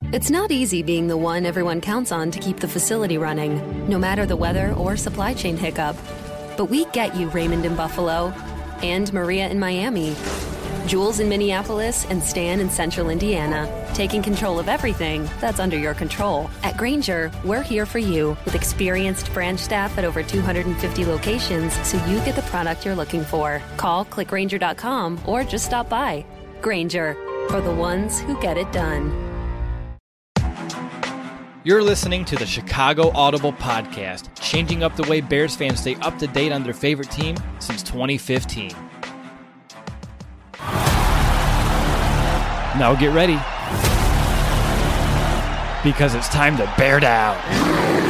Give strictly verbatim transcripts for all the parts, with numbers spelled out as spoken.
It's not easy being the one everyone counts on to keep the facility running, no matter the weather or supply chain hiccup. But we get you, Raymond in Buffalo, and Maria in Miami, Jules in Minneapolis, and Stan in Central Indiana, taking control of everything that's under your control. At Grainger, we're here for you with experienced branch staff at over two hundred fifty locations so you get the product you're looking for. Call click grainger dot com or just stop by. Grainger, for the ones who get it done. You're listening to the Chicago Audible Podcast, changing up the way Bears fans stay up to date on their favorite team since twenty fifteen. Now get ready, because it's time to bear down.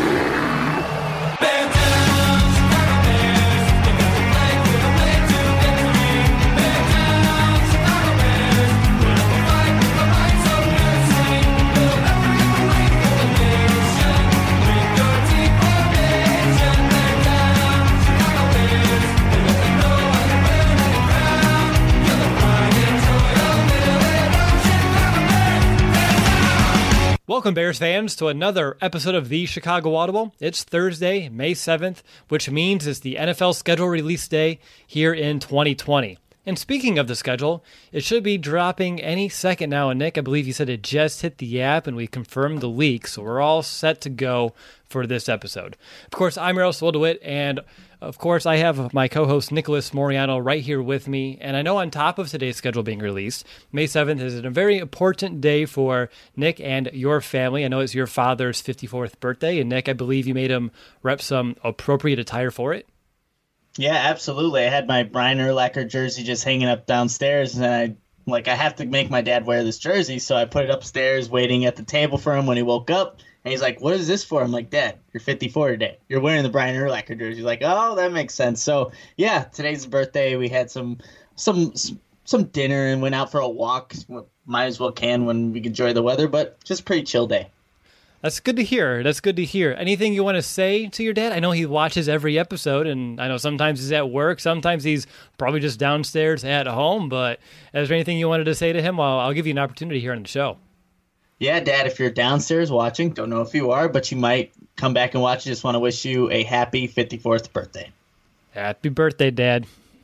Welcome, Bears fans, to another episode of the Chicago Audible. It's Thursday, May seventh, which means it's the N F L schedule release day here in twenty twenty. And speaking of the schedule, it should be dropping any second now. And Nick, I believe you said it just hit the app and we confirmed the leak, so we're all set to go for this episode. Of course, I'm Yaroslav DeWitt, and of course, I have my co-host Nicholas Moriano right here with me, and I know on top of today's schedule being released, May seventh is a very important day for Nick and your family. I know it's your father's fifty-fourth birthday, and Nick, I believe you made him rep some appropriate attire for it. Yeah, absolutely. I had my Brian Urlacher jersey just hanging up downstairs, and I like I have to make my dad wear this jersey, so I put it upstairs waiting at the table for him when he woke up. And he's like, what is this for? I'm like, Dad, you're fifty-four today. You're wearing the Brian Urlacher jersey. He's like, oh, that makes sense. So, yeah, today's his birthday. We had some some some dinner and went out for a walk. Might as well can when we enjoy the weather, but just pretty chill day. That's good to hear. That's good to hear. Anything you want to say to your dad? I know he watches every episode, and I know sometimes he's at work. Sometimes he's probably just downstairs at home. But is there anything you wanted to say to him? Well, I'll give you an opportunity here on the show. Yeah, Dad, if you're downstairs watching, don't know if you are, but you might come back and watch. I just want to wish you a happy fifty-fourth birthday. Happy birthday, Dad.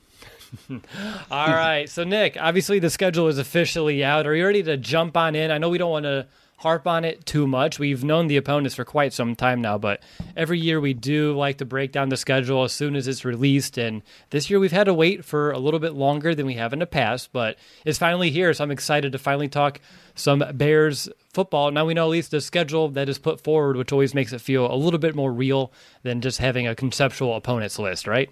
All right. So, Nick, obviously the schedule is officially out. Are you ready to jump on in? I know we don't want to harp on it too much. We've known the opponents for quite some time now, but every year we do like to break down the schedule as soon as it's released, and this year we've had to wait for a little bit longer than we have in the past, but it's finally here, so I'm excited to finally talk some Bears football. Now we know at least the schedule that is put forward, which always makes it feel a little bit more real than just having a conceptual opponents list, right?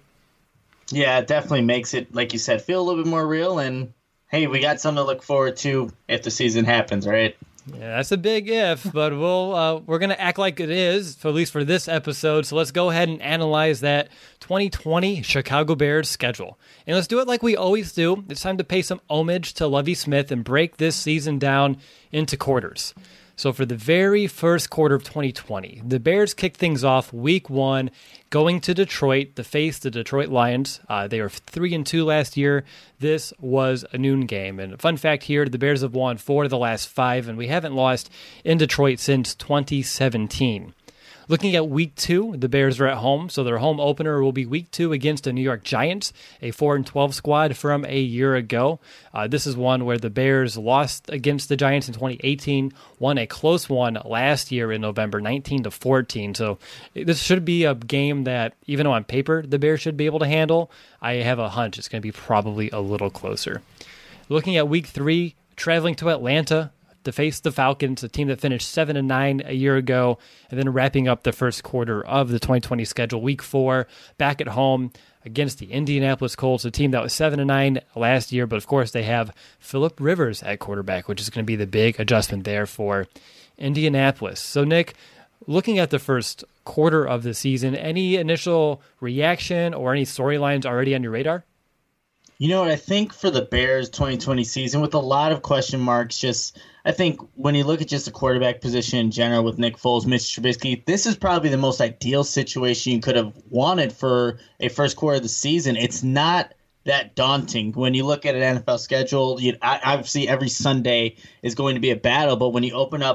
Yeah, it definitely makes it, like you said, feel a little bit more real, and hey, we got something to look forward to if the season happens, right? Yeah, that's a big if, but we'll uh, we're gonna act like it is, for at least for this episode. So let's go ahead and analyze that twenty twenty Chicago Bears schedule, and let's do it like we always do. It's time to pay some homage to Lovie Smith and break this season down into quarters. So for the very first quarter of twenty twenty, the Bears kicked things off week one, going to Detroit to face the Detroit Lions. Uh, they were three and two last year. This was a noon game. And a fun fact here, the Bears have won four of the last five, and we haven't lost in Detroit since twenty seventeen. Looking at week two, the Bears are at home, so their home opener will be week two against the New York Giants, a four and twelve squad from a year ago. Uh, this is one where the Bears lost against the Giants in twenty eighteen, won a close one last year in November, nineteen to fourteen. So this should be a game that, even though on paper the Bears should be able to handle, I have a hunch it's going to be probably a little closer. Looking at week three, traveling to Atlanta to face the Falcons, a team that finished seven and nine a year ago, and then wrapping up the first quarter of the twenty twenty schedule, week four, back at home against the Indianapolis Colts, a team that was seven and nine last year, but of course they have Phillip Rivers at quarterback, which is going to be the big adjustment there for Indianapolis. So, Nick, looking at the first quarter of the season, any initial reaction or any storylines already on your radar? You know what, I think for the Bears twenty twenty season, with a lot of question marks, just I think when you look at just the quarterback position in general with Nick Foles, Mitch Trubisky, this is probably the most ideal situation you could have wanted for a first quarter of the season. It's not that daunting. When you look at an N F L schedule, you, obviously every Sunday is going to be a battle, but when you open up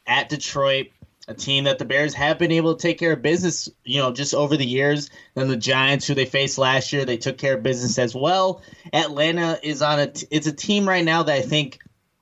at Detroit, a team that the Bears have been able to take care of business, you know, just over the years. Then the Giants, who they faced last year, they took care of business as well. Atlanta is on a t- it's a team right now that I think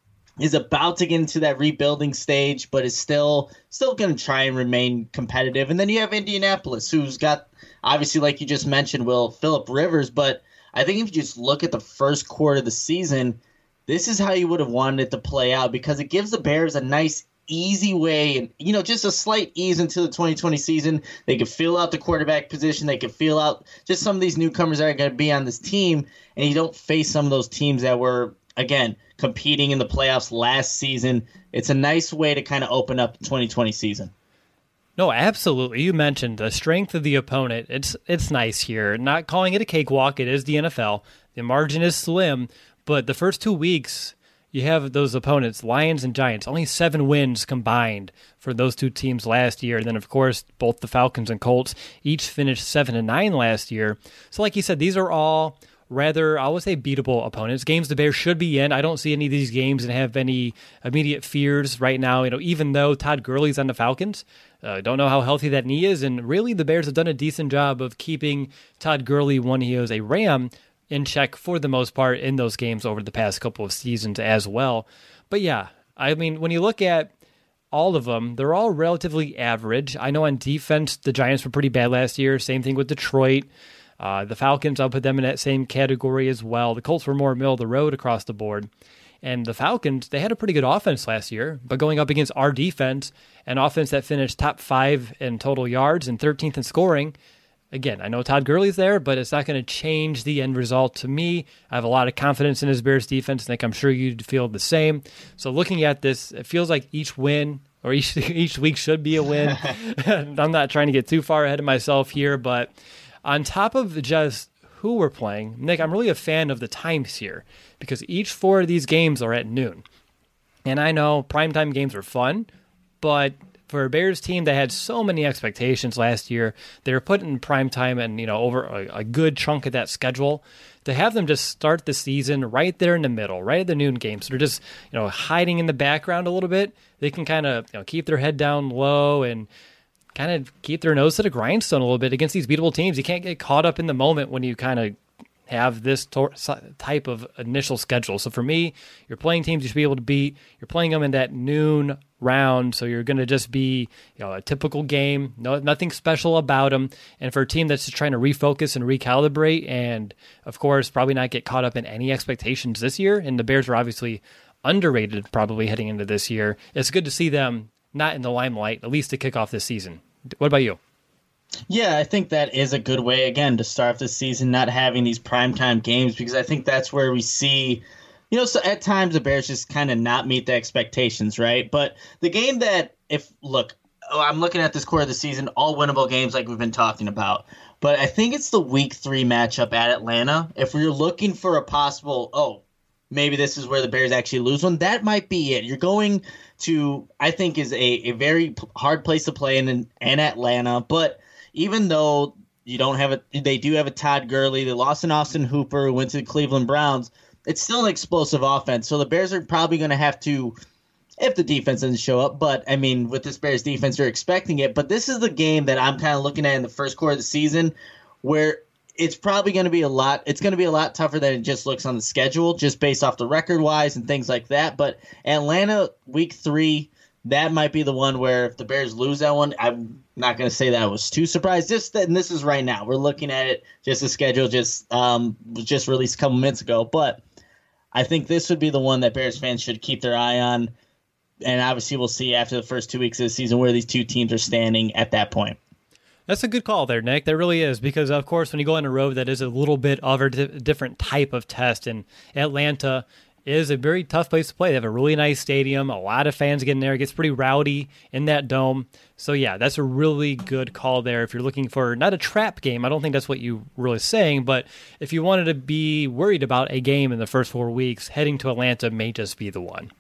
is about to get into that rebuilding stage, but is still still going to try and remain competitive. And then you have Indianapolis, who's got, obviously, like you just mentioned, Will, Phillip Rivers. But I think if you just look at the first quarter of the season, this is how you would have wanted it to play out, because it gives the Bears a nice, easy way, and you know, just a slight ease into the twenty twenty season. They could feel out the quarterback position. They could feel out just some of these newcomers that are going to be on this team, and you don't face some of those teams that were, again, competing in the playoffs last season. It's a nice way to kind of open up the twenty twenty season. No, absolutely. You mentioned the strength of the opponent. It's it's nice here. Not calling it a cakewalk. It is the N F L. The margin is slim, but the first two weeks, you have those opponents, Lions and Giants, only seven wins combined for those two teams last year. And then, of course, both the Falcons and Colts each finished seven and nine last year. So like you said, these are all rather, I would say, beatable opponents. Games the Bears should be in. I don't see any of these games and have any immediate fears right now. You know, even though Todd Gurley's on the Falcons, I uh, don't know how healthy that knee is. And really, the Bears have done a decent job of keeping Todd Gurley when he was a Ram in check for the most part in those games over the past couple of seasons as well. But yeah, I mean, when you look at all of them, they're all relatively average. I know on defense, the Giants were pretty bad last year. Same thing with Detroit. Uh, the Falcons, I'll put them in that same category as well. The Colts were more middle of the road across the board. And the Falcons, they had a pretty good offense last year, but going up against our defense, an offense that finished top five in total yards and thirteenth in scoring. Again, I know Todd Gurley's there, but it's not going to change the end result to me. I have a lot of confidence in his Bears defense, and I'm sure you'd feel the same. So looking at this, it feels like each win or each each week should be a win. I'm not trying to get too far ahead of myself here, but on top of just who we're playing, Nick, I'm really a fan of the times here because each four of these games are at noon. And I know primetime games are fun, but for a Bears team that had so many expectations last year, they were put in prime time and, you know, over a, a good chunk of that schedule. To have them just start the season right there in the middle, right at the noon game, so they're just, you know, hiding in the background a little bit. They can kind of, you know, keep their head down low and kind of keep their nose to the grindstone a little bit against these beatable teams. You can't get caught up in the moment when you kind of have this tor- type of initial schedule. So for me, you're playing teams you should be able to beat. You're playing them in that noon round, so you're going to just be, you know, a typical game. No, nothing special about them. And for a team that's just trying to refocus and recalibrate, and of course, probably not get caught up in any expectations this year. And the Bears are obviously underrated, probably heading into this year. It's good to see them not in the limelight, at least to kick off this season. What about you? Yeah, I think that is a good way, again, to start the season, not having these primetime games, because I think that's where we see, you know, so at times the Bears just kind of not meet the expectations, right? But the game that, if, look, oh, I'm looking at this quarter of the season, all winnable games like we've been talking about. But I think it's the week three matchup at Atlanta. If we're looking for a possible, oh, maybe this is where the Bears actually lose one, that might be it. You're going to, I think, is a, a very hard place to play in, in, in Atlanta, but even though you don't have a, they do have a Todd Gurley, they lost an Austin Hooper who went to the Cleveland Browns. It's still an explosive offense, so the Bears are probably going to have to, if the defense doesn't show up. But I mean, with this Bears defense, you're expecting it. But this is the game that I'm kind of looking at in the first quarter of the season, where it's probably going to be a lot. It's going to be a lot tougher than it just looks on the schedule, just based off the record wise and things like that. But Atlanta, week three. That might be the one where if the Bears lose that one, I'm not going to say that I was too surprised. Just that, and this is right now. We're looking at it. Just the schedule just um, was just released a couple minutes ago. But I think this would be the one that Bears fans should keep their eye on. And obviously we'll see after the first two weeks of the season where these two teams are standing at that point. That's a good call there, Nick. That really is, because, of course, when you go on a road, that is a little bit of a di- different type of test. And Atlanta is a very tough place to play. They have a really nice stadium. A lot of fans get in there. It gets pretty rowdy in that dome. So, yeah, that's a really good call there. If you're looking for not a trap game, I don't think that's what you were really saying, but if you wanted to be worried about a game in the first four weeks, heading to Atlanta may just be the one.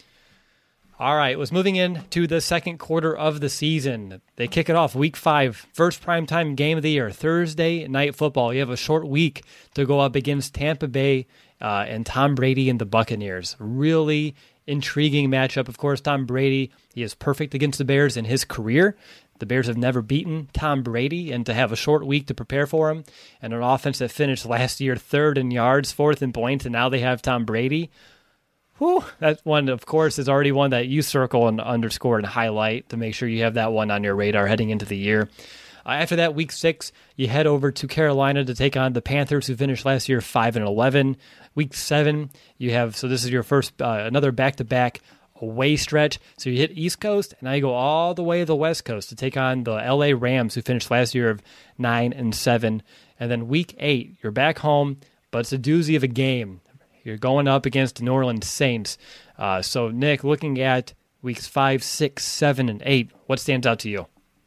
All right, let's moving into the second quarter of the season. They kick it off week five, first primetime game of the year, Thursday night football. You have a short week to go up against Tampa Bay uh, and Tom Brady and the Buccaneers. Really intriguing matchup. Of course, Tom Brady, he is perfect against the Bears in his career. The Bears have never beaten Tom Brady, and to have a short week to prepare for him, and an offense that finished last year third in yards, fourth in points, and now they have Tom Brady. Whew, that one, of course, is already one that you circle and underscore and highlight to make sure you have that one on your radar heading into the year. Uh, after that, week six, you head over to Carolina to take on the Panthers, who finished last year five and eleven. Week seven, you have, so this is your first, uh, another back-to-back away stretch. So you hit East Coast, and now you go all the way to the West Coast to take on the L A Rams, who finished last year of nine and seven. And then week eight, you're back home, but it's a doozy of a game. You're going up against the New Orleans Saints. Uh, so, Nick, looking at weeks five, six, seven, and eight, what stands out to you?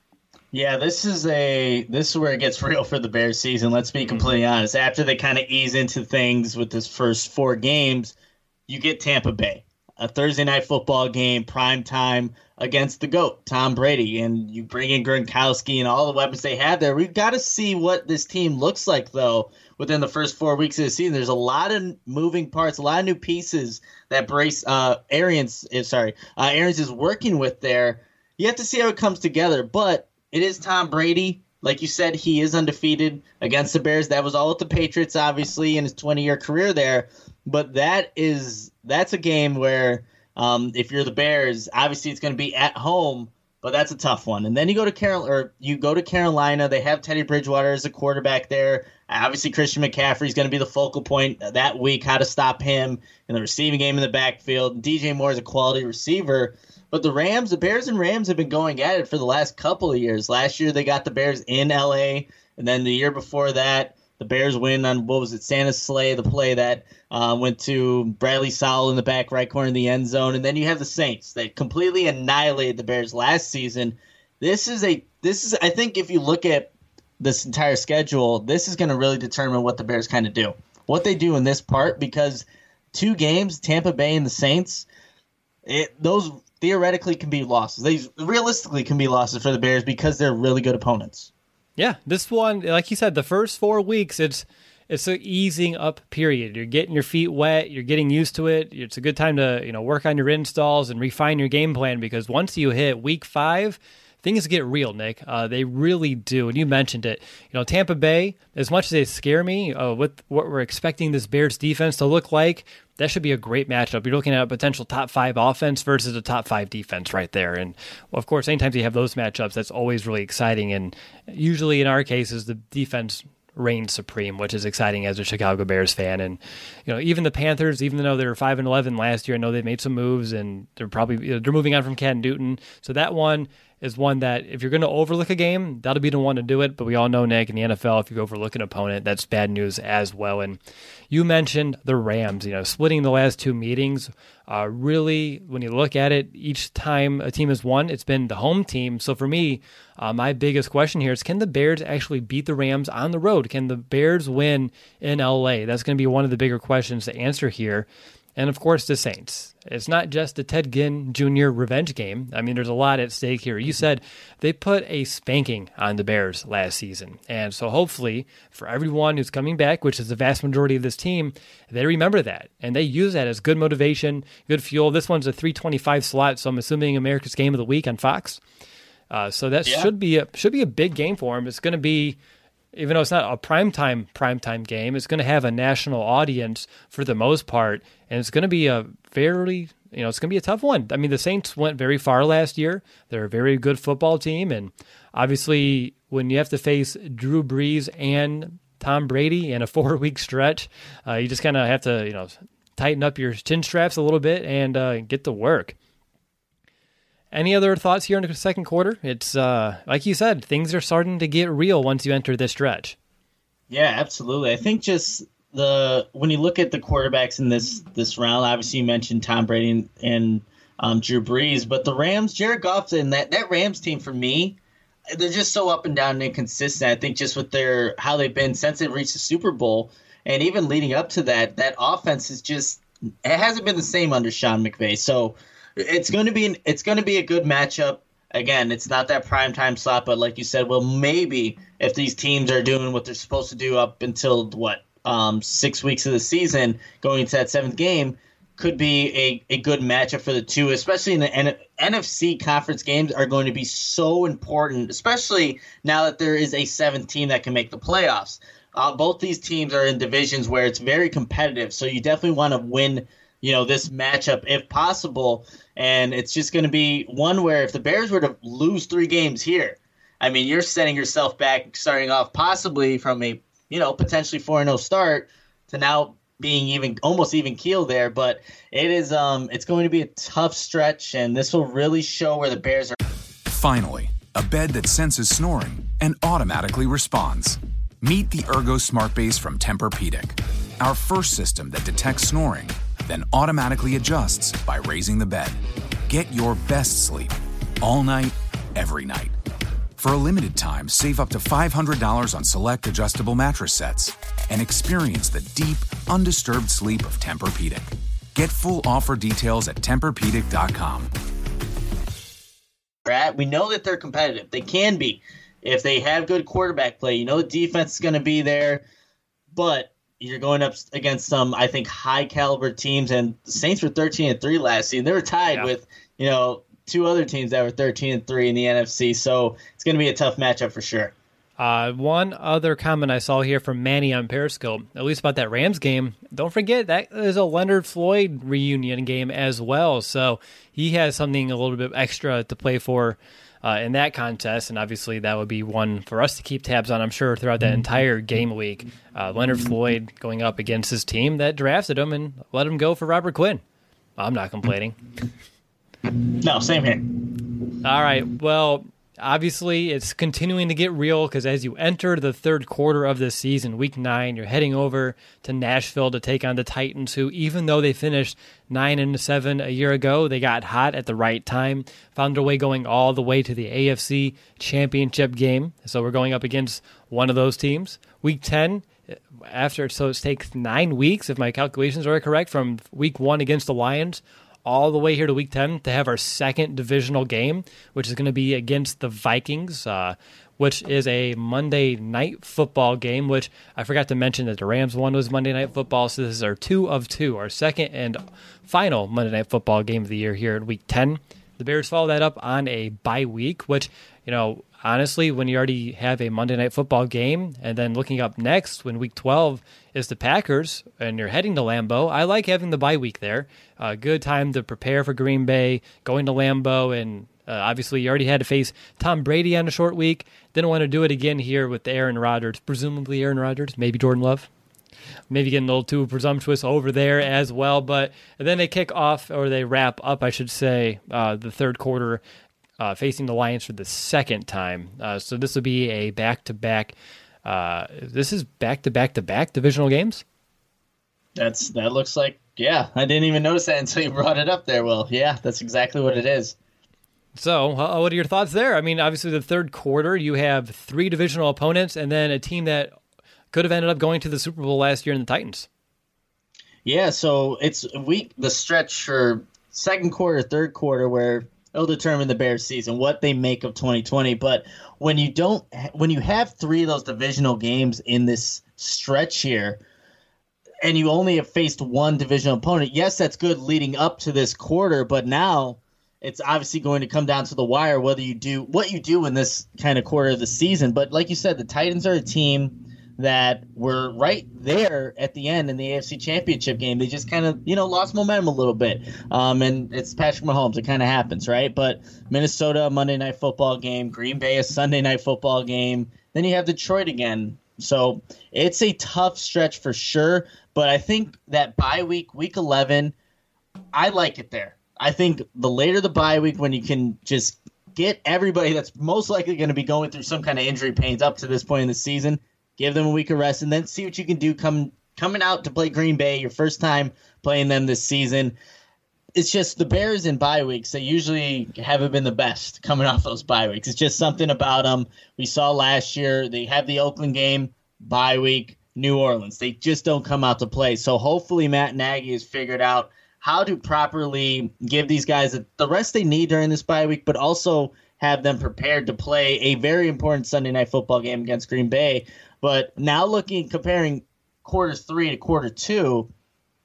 Yeah, this is a this is where it gets real for the Bears season. Let's be completely honest. After they kind of ease into things with this first four games, you get Tampa Bay, a Thursday night football game, prime time against the GOAT, Tom Brady, and you bring in Gronkowski and all the weapons they have there. We've got to see what this team looks like, though, within the first four weeks of the season. There's a lot of moving parts, a lot of new pieces that Brace uh, Arians is sorry uh, Arians is working with there. You have to see how it comes together, but it is Tom Brady. Like you said, he is undefeated against the Bears. That was all with the Patriots, obviously, in his twenty-year career there. But that is that's a game where um, if you're the Bears, obviously it's going to be at home, but that's a tough one. And then you go to Carol or you go to Carolina. They have Teddy Bridgewater as a quarterback there. Obviously, Christian McCaffrey is going to be the focal point that week. How to stop him in the receiving game in the backfield. D J Moore is a quality receiver. But the Rams, the Bears and Rams have been going at it for the last couple of years. Last year they got the Bears in L A, and then the year before that, the Bears win on, what was it, Santa's Sleigh, the play that uh, went to Bradley Sowell in the back right corner of the end zone. And then you have the Saints that completely annihilated the Bears last season. This is a this is I think if you look at this entire schedule, this is going to really determine what the Bears kind of do, what they do in this part, because two games, Tampa Bay and the Saints, it, those theoretically can be losses. They realistically can be losses for the Bears because they're really good opponents. Yeah, this one, like you said, the first four weeks, it's it's an easing up period. You're getting your feet wet. You're getting used to it. It's a good time to you know work on your installs and refine your game plan, because once you hit week five, things get real, Nick. Uh, they really do. And you mentioned it. You know, Tampa Bay, as much as they scare me uh, with what we're expecting this Bears defense to look like, that should be a great matchup. You're looking at a potential top five offense versus a top five defense right there. And, well, of course, anytime you have those matchups, that's always really exciting. And usually in our cases, the defense reigns supreme, which is exciting as a Chicago Bears fan. And, you know, even the Panthers, even though they were five and eleven last year, I know they made some moves, and they're probably you know, they're moving on from Ken Newton. So that one is one that if you're going to overlook a game, that'll be the one to do it. But we all know, Nick, in the N F L, if you overlook an opponent, that's bad news as well. And you mentioned the Rams, you know, splitting the last two meetings. Uh, really, when you look at it, each time a team has won, it's been the home team. So for me, uh, my biggest question here is, can the Bears actually beat the Rams on the road? Can the Bears win in L A? That's going to be one of the bigger questions to answer here. And, of course, the Saints. It's not just the Ted Ginn Junior revenge game. I mean, there's a lot at stake here. You said they put a spanking on the Bears last season. And so hopefully for everyone who's coming back, which is the vast majority of this team, they remember that. And they use that as good motivation, good fuel. This one's a three twenty-five slot, so I'm assuming America's Game of the Week on Fox. Uh, so that yeah. should be a should be a big game for them. It's going to be, even though it's not a primetime primetime game, it's going to have a national audience for the most part, and it's going to be a very, you know, it's going to be a tough one. I mean, the Saints went very far last year. They're a very good football team, and obviously when you have to face Drew Brees and Tom Brady in a four-week stretch, uh, you just kind of have to, you know, tighten up your chin straps a little bit and uh, get to work. Any other thoughts here in the second quarter? It's, uh, like you said, things are starting to get real once you enter this stretch. Yeah, absolutely. I think just the when you look at the quarterbacks in this this round, obviously you mentioned Tom Brady and, and um, Drew Brees, but the Rams, Jared Goff, and that, that Rams team, for me, they're just so up and down and inconsistent. I think just with their how they've been since they've reached the Super Bowl, and even leading up to that, that offense is just it hasn't been the same under Sean McVay. So It's going to be an, it's going to be a good matchup. Again, it's not that primetime slot, but like you said, well, maybe if these teams are doing what they're supposed to do up until what um, six weeks of the season, going into that seventh game, could be a, a good matchup for the two, especially in the N- NFC conference games are going to be so important, especially now that there is a seventh team that can make the playoffs. Uh, both these teams are in divisions where it's very competitive, so you definitely want to win, you know, this matchup if possible. And it's just going to be one where if the Bears were to lose three games here, I mean, you're setting yourself back, starting off possibly from a, you know, potentially four and oh start to now being even almost even keel there. But it is um it's going to be a tough stretch, and this will really show where the Bears are. Finally, a bed that senses snoring and automatically responds. Meet the Ergo Smart Base from Tempur-Pedic, our first system that detects snoring, then automatically adjusts by raising the bed. Get your best sleep all night, every night. For a limited time, save up to five hundred dollars on select adjustable mattress sets and experience the deep, undisturbed sleep of Tempur-Pedic. Get full offer details at Tempur Pedic dot com. We know that they're competitive. They can be if they have good quarterback play. You know the defense is going to be there, but you're going up against some, I think, high-caliber teams, and the Saints were thirteen and three last season. They were tied yeah. with, you know, two other teams that were thirteen and three in the N F C, so it's going to be a tough matchup for sure. Uh, one other comment I saw here from Manny on Periscope, at least about that Rams game, don't forget that is a Leonard Floyd reunion game as well, so he has something a little bit extra to play for uh, in that contest, and obviously that would be one for us to keep tabs on, I'm sure, throughout that entire game week. Uh, Leonard Floyd going up against his team that drafted him and let him go for Robert Quinn. I'm not complaining. No, same here. All right, well, obviously it's continuing to get real because as you enter the third quarter of this season, week nine, you're heading over to Nashville to take on the Titans, who, even though they finished nine and seven a year ago, they got hot at the right time, found their way going all the way to the A F C Championship game. So we're going up against one of those teams. Week ten, after so it takes nine weeks, if my calculations are correct, from week one against the Lions all the way here to week ten to have our second divisional game, which is going to be against the Vikings, uh, which is a Monday night football game, which I forgot to mention that the Rams one was Monday night football, so this is our two of two, our second and final Monday night football game of the year here in week ten. The Bears follow that up on a bye week, which, you know, honestly, when you already have a Monday night football game, and then looking up next when week twelve is the Packers, and you're heading to Lambeau, I like having the bye week there. A uh, good time to prepare for Green Bay, going to Lambeau, and uh, obviously you already had to face Tom Brady on a short week. Didn't want to do it again here with Aaron Rodgers, presumably Aaron Rodgers, maybe Jordan Love. Maybe getting a little too presumptuous over there as well, but then they kick off, or they wrap up, I should say, uh, the third quarter uh, facing the Lions for the second time. Uh, so this will be a back-to-back. Uh, this is back-to-back-to-back divisional games? That's That looks like, yeah. I didn't even notice that until you brought it up there, Will. Yeah, that's exactly what it is. So uh, what are your thoughts there? I mean, obviously the third quarter, you have three divisional opponents and then a team that could have ended up going to the Super Bowl last year in the Titans. Yeah, so it's week the stretch for second quarter, third quarter, where it'll determine the Bears' season, what they make of twenty twenty. But when you don't, when you have three of those divisional games in this stretch here, and you only have faced one divisional opponent, yes, that's good leading up to this quarter, but now it's obviously going to come down to the wire whether you do what you do in this kind of quarter of the season. But like you said, the Titans are a team that were right there at the end in the A F C Championship game. They just kind of, you know, lost momentum a little bit. Um, and it's Patrick Mahomes. It kind of happens, right? But Minnesota, a Monday Night Football game. Green Bay, a Sunday Night Football game. Then you have Detroit again. So it's a tough stretch for sure. But I think that bye week, week eleven, I like it there. I think the later the bye week, when you can just get everybody that's most likely going to be going through some kind of injury pains up to this point in the season, give them a week of rest, and then see what you can do come, coming out to play Green Bay, your first time playing them this season. It's just the Bears in bye weeks, they usually haven't been the best coming off those bye weeks. It's just something about them. We saw last year, they have the Oakland game, bye week, New Orleans. They just don't come out to play. So hopefully Matt Nagy has figured out how to properly give these guys the rest they need during this bye week, but also have them prepared to play a very important Sunday Night Football game against Green Bay. But now looking, comparing quarter three to quarter two,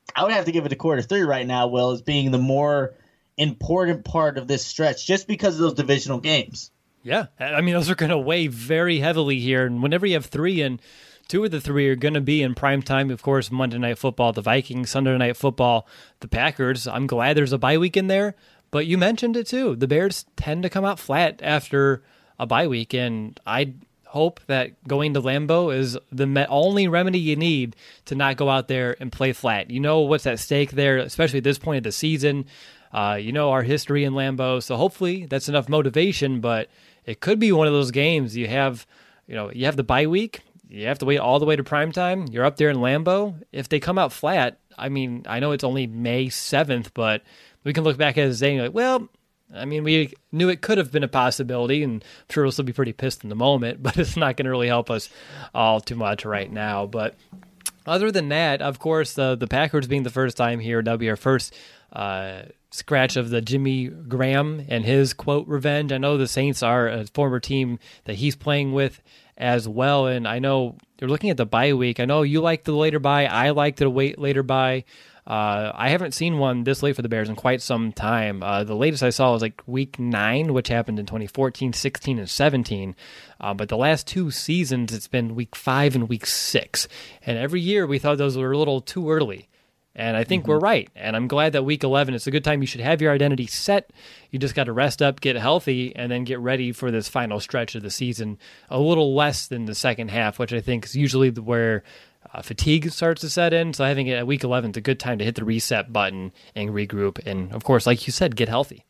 I would have to give it to quarter three right now, Will, as being the more important part of this stretch, just because of those divisional games. Yeah, I mean, those are going to weigh very heavily here. And whenever you have three, and two of the three are going to be in prime time, of course, Monday Night Football, the Vikings, Sunday Night Football, the Packers. I'm glad there's a bye week in there. But you mentioned it too. The Bears tend to come out flat after a bye week, and I hope that going to Lambeau is the me- only remedy you need to not go out there and play flat. You know what's at stake there, especially at this point of the season. Uh, you know our history in Lambeau, so hopefully that's enough motivation. But it could be one of those games you have, you know, you have the bye week. You have to wait all the way to prime time. You're up there in Lambeau. If they come out flat, I mean, I know it's only May seventh, but we can look back at it saying like, well, I mean, we knew it could have been a possibility, and I'm sure we'll still be pretty pissed in the moment, but it's not going to really help us all too much right now. But other than that, of course, uh, the Packers being the first time here, that'll be our first uh, scratch of the Jimmy Graham and his, quote, revenge. I know the Saints are a former team that he's playing with as well, and I know you're looking at the bye week. I know you like the later bye. I like the wait later bye. Uh, I haven't seen one this late for the Bears in quite some time. Uh, the latest I saw was like week nine, which happened in twenty fourteen, sixteen, and seventeen. Uh, but the last two seasons, it's been week five and week six. And every year we thought those were a little too early. And I think mm-hmm. we're right. And I'm glad that week eleven, it's a good time. You should have your identity set. You just got to rest up, get healthy, and then get ready for this final stretch of the season. A little less than the second half, which I think is usually where Uh, fatigue starts to set in, so I think at week eleven is a good time to hit the reset button and regroup, and of course, like you said, get healthy.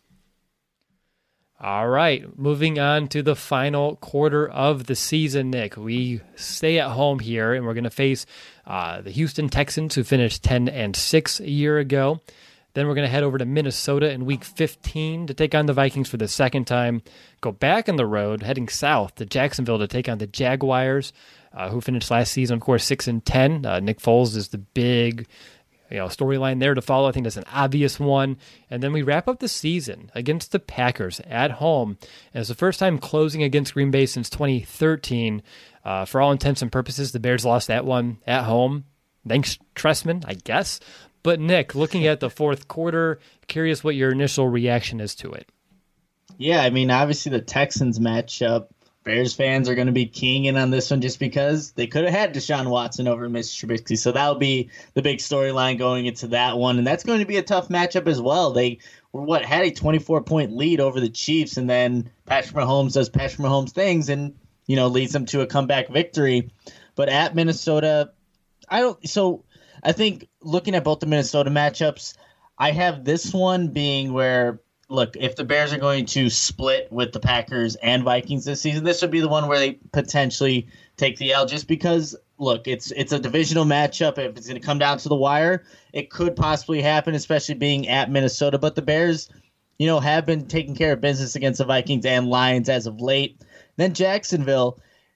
All right, moving on to the final quarter of the season, Nick. We stay at home here, and we're going to face uh, the Houston Texans, who finished ten and six a year ago. Then we're going to head over to Minnesota in week fifteen to take on the Vikings for the second time. Go back on the road, heading south to Jacksonville to take on the Jaguars, uh, who finished last season, of course, six and ten. Uh, Nick Foles is the big, you know, storyline there to follow. I think that's an obvious one. And then we wrap up the season against the Packers at home. And it's the first time closing against Green Bay since twenty thirteen. Uh, for all intents and purposes, the Bears lost that one at home. Thanks, Trestman, I guess. But Nick, looking at the fourth quarter, curious what your initial reaction is to it. Yeah, I mean, obviously the Texans matchup, Bears fans are going to be keying in on this one just because they could have had Deshaun Watson over Mister Trubisky. So that'll be the big storyline going into that one. And that's going to be a tough matchup as well. They were, what, had a twenty-four point lead over the Chiefs, and then Patrick Mahomes does Patrick Mahomes things and, you know, leads them to a comeback victory. But at Minnesota, I don't – so – I think looking at both the Minnesota matchups, I have this one being where, look, if the Bears are going to split with the Packers and Vikings this season, this would be the one where they potentially take the L just because, look, it's it's a divisional matchup. If it's going to come down to the wire, it could possibly happen, especially being at Minnesota. But the Bears, you know, have been taking care of business against the Vikings and Lions as of late. Then Jacksonville,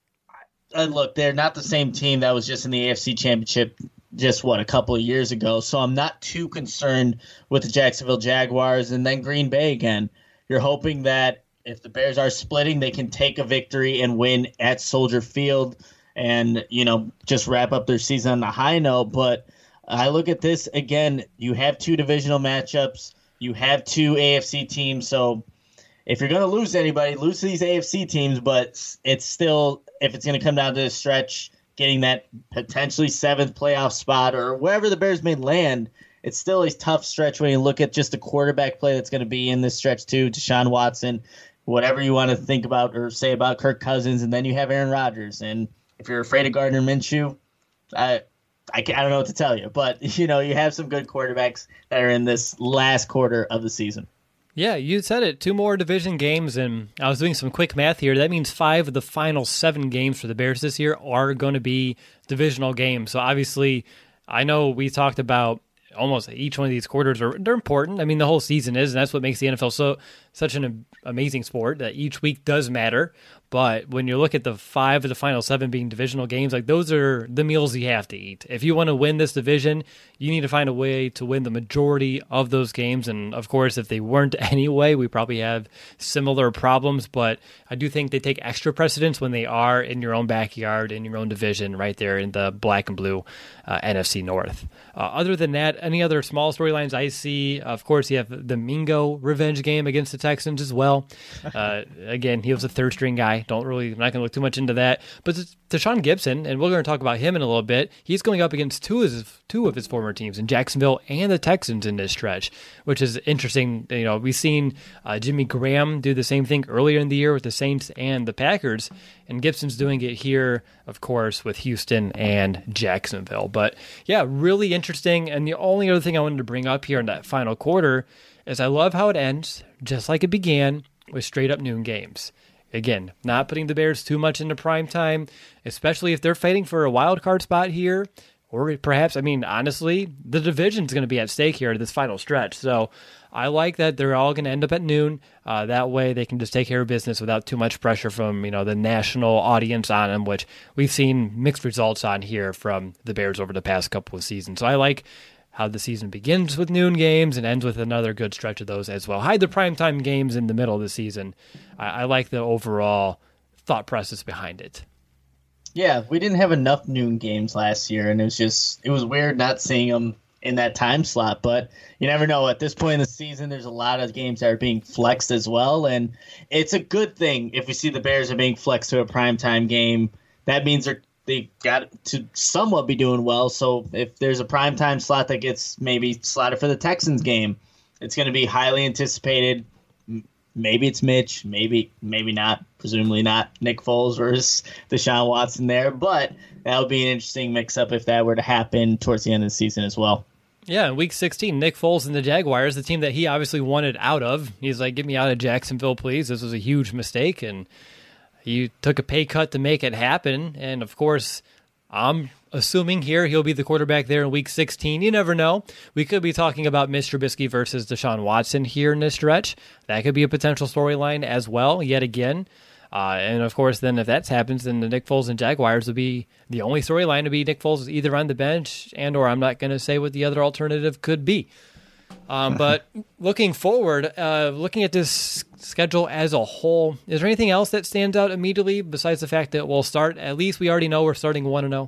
uh, look, they're not the same team that was just in the A F C Championship just, what, a couple of years ago. So I'm not too concerned with the Jacksonville Jaguars. And then Green Bay again. You're hoping that if the Bears are splitting, they can take a victory and win at Soldier Field and, you know, just wrap up their season on a high note. But I look at this, again, you have two divisional matchups. You have two A F C teams. So if you're going to lose anybody, lose to these A F C teams. But it's still, if it's going to come down to the stretch, getting that potentially seventh playoff spot or wherever the Bears may land, it's still a tough stretch when you look at just the quarterback play that's going to be in this stretch too. Deshaun Watson, whatever you want to think about or say about Kirk Cousins, and then you have Aaron Rodgers. And if you're afraid of Gardner Minshew, I, I, I don't know what to tell you. But, you know, you have some good quarterbacks that are in this last quarter of the season. Yeah, you said it. Two more division games, and I was doing some quick math here. That means five of the final seven games for the Bears this year are going to be divisional games. So obviously, I know we talked about almost each one of these quarters are they're important. I mean, the whole season is, and that's what makes the N F L so such an amazing sport that each week does matter. But when you look at the five of the final seven being divisional games, like those are the meals you have to eat. If you want to win this division, you need to find a way to win the majority of those games. And of course, if they weren't anyway, we probably have similar problems. But I do think they take extra precedence when they are in your own backyard, in your own division, right there in the black and blue uh, N F C North. Uh, other than that, any other small storylines I see? Of course, you have the Mingo revenge game against the Texans as well. Uh, again, he was a third string guy. Don't really, I'm not going to look too much into that. But Deshaun Gibson, and we're going to talk about him in a little bit, he's going up against two of his, two of his former teams in Jacksonville and the Texans in this stretch, which is interesting. You know, we've seen uh, Jimmy Graham do the same thing earlier in the year with the Saints and the Packers, and Gibson's doing it here, of course, with Houston and Jacksonville. But yeah, really interesting. And the only other thing I wanted to bring up here in that final quarter is I love how it ends, just like it began, with straight up noon games. Again, not putting the Bears too much into prime time, especially if they're fighting for a wild card spot here. Or perhaps, I mean, honestly, the division's going to be at stake here at this final stretch. So I like that they're all going to end up at noon. Uh, that way they can just take care of business without too much pressure from, you know, the national audience on them, which we've seen mixed results on here from the Bears over the past couple of seasons. So I like how the season begins with noon games and ends with another good stretch of those as well. Hide the primetime games in the middle of the season. I, I like the overall thought process behind it. Yeah, we didn't have enough noon games last year, and it was just it was weird not seeing them in that time slot. But you never know. At this point in the season, there's a lot of games that are being flexed as well, and it's a good thing if we see the Bears are being flexed to a primetime game. That means they're they got to somewhat be doing well. So if there's a primetime slot that gets maybe slotted for the Texans game, it's going to be highly anticipated. Maybe it's Mitch, maybe maybe not, presumably not Nick Foles versus Deshaun Watson there, but that would be an interesting mix-up if that were to happen towards the end of the season as well. Yeah, in week sixteen, Nick Foles and the Jaguars, the team that he obviously wanted out of, he's like, get me out of Jacksonville, please. This was a huge mistake, and he took a pay cut to make it happen, and of course, I'm assuming here he'll be the quarterback there in week sixteen. You never know. We could be talking about Mitch Trubisky versus Deshaun Watson here in this stretch. That could be a potential storyline as well, yet again. Uh, and of course, then if that happens, then the Nick Foles and Jaguars will be the only storyline to be Nick Foles either on the bench and or I'm not going to say what the other alternative could be. Um, but looking forward, uh, looking at this schedule as a whole, is there anything else that stands out immediately besides the fact that we'll start, at least we already know we're starting one and oh?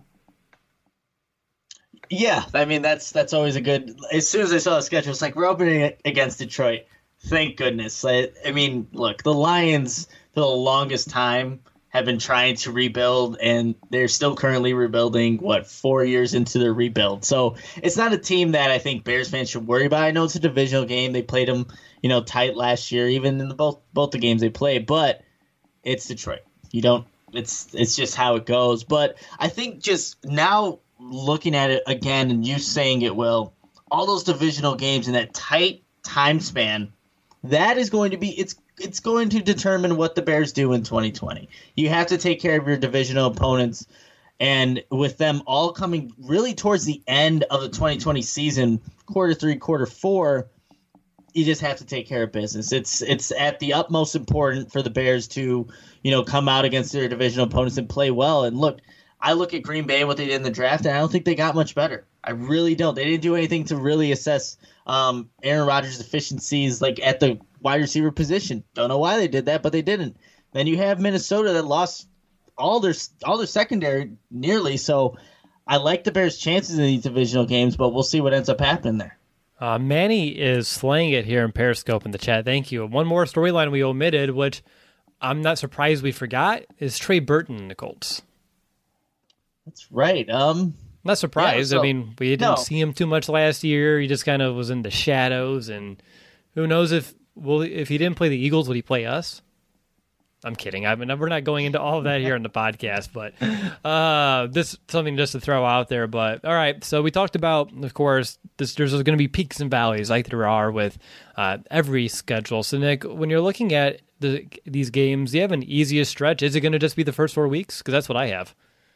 Yeah, I mean, that's that's always a good, as soon as I saw the schedule, it's like, we're opening it against Detroit. Thank goodness. I, I mean, look, the Lions, for the longest time, have been trying to rebuild, and they're still currently rebuilding, what, four years into their rebuild. So it's not a team that I think Bears fans should worry about. I know it's a divisional game. They played them, you know, tight last year, even in the both both the games they played, but it's Detroit. You don't, it's it's just how it goes. But I think just now looking at it again and you saying it, Will, all those divisional games in that tight time span, that is going to be, it's it's going to determine what the Bears do in twenty twenty. You have to take care of your divisional opponents, and with them all coming really towards the end of the twenty twenty season, quarter three, quarter four, you just have to take care of business. It's it's at the utmost important for the Bears to, you know, come out against their divisional opponents and play well. And look, I look at Green Bay, what they did in the draft, and I don't think they got much better. I really don't. They didn't do anything to really assess um, Aaron Rodgers' deficiencies, like at the wide receiver position. Don't know why they did that, but they didn't. Then you have Minnesota that lost all their all their secondary nearly. So I like the Bears' chances in these divisional games, but we'll see what ends up happening there. Uh, Manny is slaying it here in Periscope in the chat. Thank you. One more storyline we omitted, which I'm not surprised we forgot, is Trey Burton in the Colts. That's right. Um, not surprised. Yeah, so, I mean, we didn't no. see him too much last year. He just kind of was in the shadows, and who knows if well if he didn't play the Eagles, would he play us? I'm kidding. I mean, we're not going into all of that here on the podcast, but uh, this is something just to throw out there. But all right, so we talked about, of course, this, there's going to be peaks and valleys like there are with uh, every schedule. So, Nick, when you're looking at the, these games, do you have an easiest stretch? Is it going to just be the first four weeks? Because that's what I have.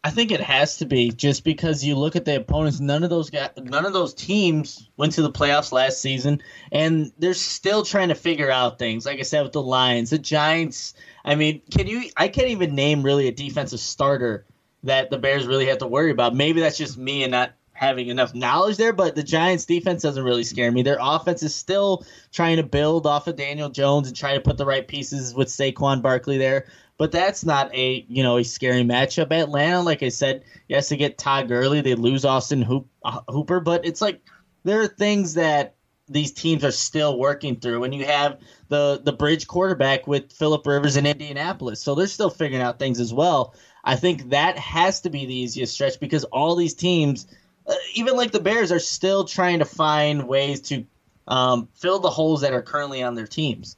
I think it has to be, just because you look at the opponents. None of those guys, none of those teams went to the playoffs last season, and they're still trying to figure out things. Like I said, with the Lions, the Giants. I mean, can you? I can't even name really a defensive starter that the Bears really have to worry about. Maybe that's just me and not having enough knowledge there, but the Giants' defense doesn't really scare me. Their offense is still trying to build off of Daniel Jones and try to put the right pieces with Saquon Barkley there. But that's not a you know a scary matchup. Atlanta, like I said, yes, they get Todd Gurley, they lose Austin Hoop, uh, Hooper, but it's like there are things that these teams are still working through. And you have the the bridge quarterback with Phillip Rivers in Indianapolis, so they're still figuring out things as well. I think that has to be the easiest stretch, because all these teams, uh, even like the Bears, are still trying to find ways to um, fill the holes that are currently on their teams.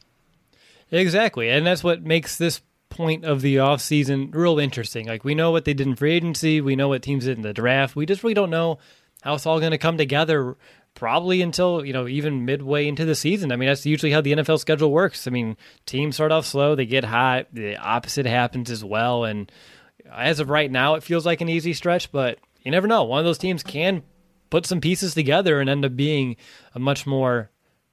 Exactly, and that's what makes this point of the offseason real interesting. Like, we know what they did in free agency, we know what teams did in the draft. We just really don't know how it's all going to come together, probably until, you know, even midway into the season. I mean, that's usually how the N F L schedule works. I mean, teams start off slow, they get hot, the opposite happens as well, and as of right now, it feels like an easy stretch, but you never know. One of those teams can put some pieces together and end up being a much more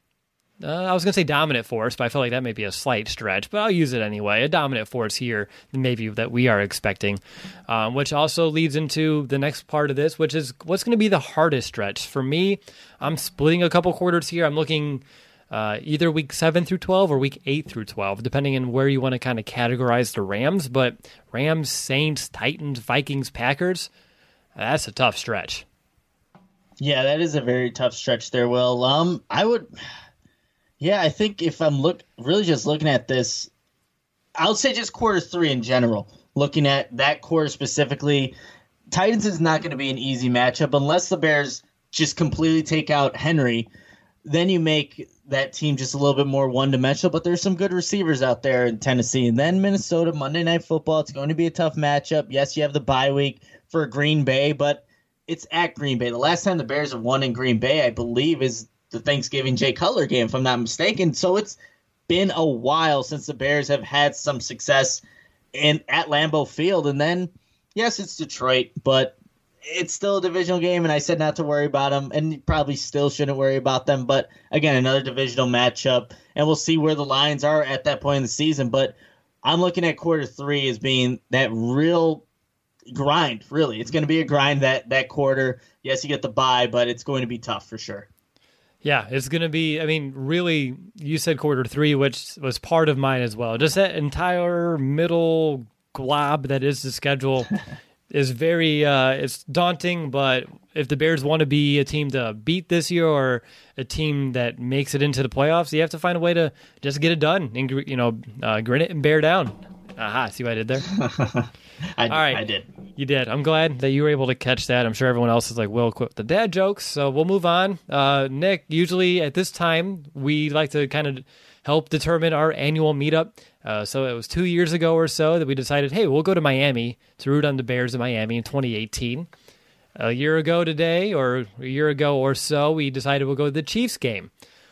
Uh, I was going to say dominant force, but I feel like that may be a slight stretch, but I'll use it anyway. A dominant force here, maybe, that we are expecting, um, which also leads into the next part of this, which is what's going to be the hardest stretch. For me, I'm splitting a couple quarters here. I'm looking uh, either week seven through twelve or week eight through twelve, depending on where you want to kind of categorize the Rams. But Rams, Saints, Titans, Vikings, Packers, that's a tough stretch. Yeah, that is a very tough stretch there, Will. Um, I would... Yeah, I think if I'm look really just looking at this, I would say just quarter three in general, looking at that quarter specifically, Titans is not going to be an easy matchup unless the Bears just completely take out Henry. Then you make that team just a little bit more one-dimensional, but there's some good receivers out there in Tennessee. And then Minnesota, Monday Night Football, it's going to be a tough matchup. Yes, you have the bye week for Green Bay, but it's at Green Bay. The last time the Bears have won in Green Bay, I believe, is the Thanksgiving Jay Cutler game, if I'm not mistaken. So it's been a while since the Bears have had some success in at Lambeau Field. And then, yes, it's Detroit, but it's still a divisional game, and I said not to worry about them, and you probably still shouldn't worry about them. But, again, another divisional matchup, and we'll see where the Lions are at that point in the season. But I'm looking at quarter three as being that real grind, really. It's going to be a grind that, that quarter. Yes, you get the bye, but it's going to be tough for sure. Yeah, it's going to be, I mean, really, you said quarter three, which was part of mine as well. Just that entire middle glob that is the schedule is very, uh, it's daunting, but if the Bears want to be a team to beat this year or a team that makes it into the playoffs, you have to find a way to just get it done and, you know, uh, grin it and bear down. Aha, see what I did there? I, All right. I did. You did. I'm glad that you were able to catch that. I'm sure everyone else is like, Will, quit the dad jokes. So we'll move on. Uh, Nick, usually at this time, we like to kind of help determine our annual meetup. Uh, so it was two years ago or so that we decided, hey, we'll go to Miami to root on the Bears in Miami in twenty eighteen. A year ago today, or a year ago or so, we decided we'll go to the Chiefs game.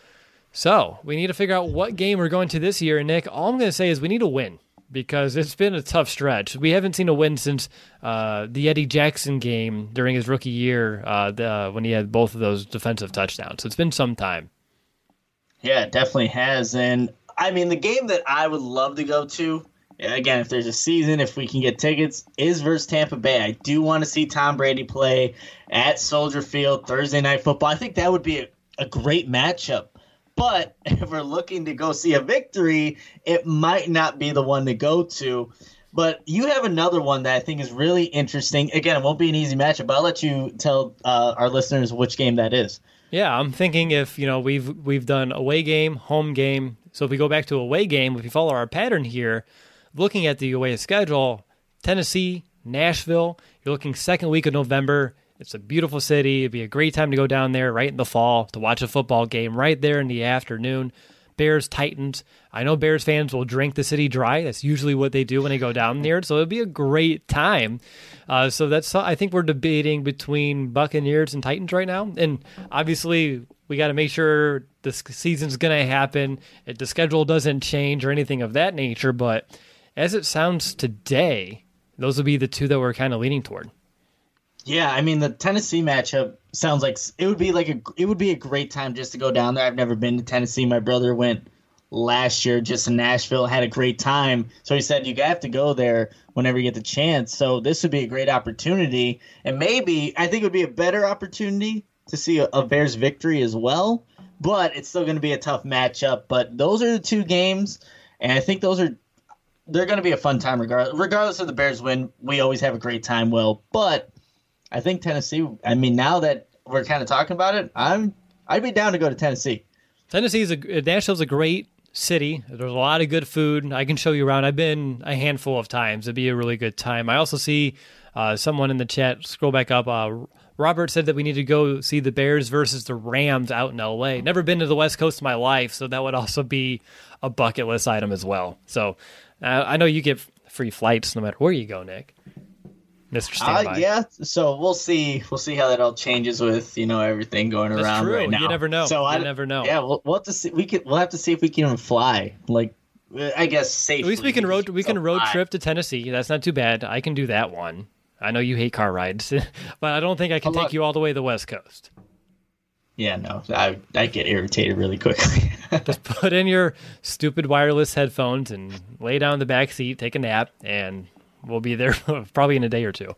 So we need to figure out what game we're going to this year. And Nick, all I'm going to say is we need a win, because it's been a tough stretch. We haven't seen a win since uh, the Eddie Jackson game during his rookie year uh, the, when he had both of those defensive touchdowns. So it's been some time. Yeah, it definitely has. And, I mean, the game that I would love to go to, again, if there's a season, if we can get tickets, is versus Tampa Bay. I do want to see Tom Brady play at Soldier Field Thursday Night Football. I think that would be a, a great matchup. But if we're looking to go see a victory, it might not be the one to go to. But you have another one that I think is really interesting. Again, it won't be an easy matchup, but I'll let you tell uh, our listeners which game that is. Yeah, I'm thinking if, you know, we've we've done away game, home game. So if we go back to away game, if you follow our pattern here, looking at the away schedule, Tennessee, Nashville, you're looking second week of November. It's a beautiful city. It'd be a great time to go down there right in the fall to watch a football game right there in the afternoon. Bears, Titans. I know Bears fans will drink the city dry. That's usually what they do when they go down there. So it'd be a great time. Uh, so that's, I think we're debating between Buccaneers and Titans right now. And obviously we got to make sure this season's going to happen. If the schedule doesn't change or anything of that nature. But as it sounds today, those would be the two that we're kind of leaning toward. Yeah, I mean the Tennessee matchup sounds like it would be like a it would be a great time just to go down there. I've never been to Tennessee. My brother went last year just in Nashville, had a great time. So he said you have to go there whenever you get the chance. So this would be a great opportunity, and maybe I think it would be a better opportunity to see a, a Bears victory as well. But it's still going to be a tough matchup. But those are the two games, and I think those are they're going to be a fun time regardless. Regardless of the Bears win, we always have a great time. Will, but I think Tennessee. I mean, now that we're kind of talking about it, I'm I'd be down to go to Tennessee. Tennessee is a Nashville's a great city. There's a lot of good food. I can show you around. I've been a handful of times. It'd be a really good time. I also see uh, someone in the chat. Scroll back up. Uh, Robert said that we need to go see the Bears versus the Rams out in L A. Never been to the West Coast in my life, so that would also be a bucket list item as well. So uh, I know you get free flights no matter where you go, Nick. Mister Standby. Uh, yeah, so we'll see. We'll see how that all changes with you know everything going That's around true. right now. You never know. So you I never know. Yeah, we'll, we'll have to see. We can. We'll have to see if we can even fly. Like, I guess safely. At least we can road. We can road fly. trip to Tennessee. That's not too bad. I can do that one. I know you hate car rides, but I don't think I can take you all the way to the West Coast. Yeah, no, I I get irritated really quickly. Just put in your stupid wireless headphones and lay down in the back seat, take a nap, and we'll be there probably in a day or two.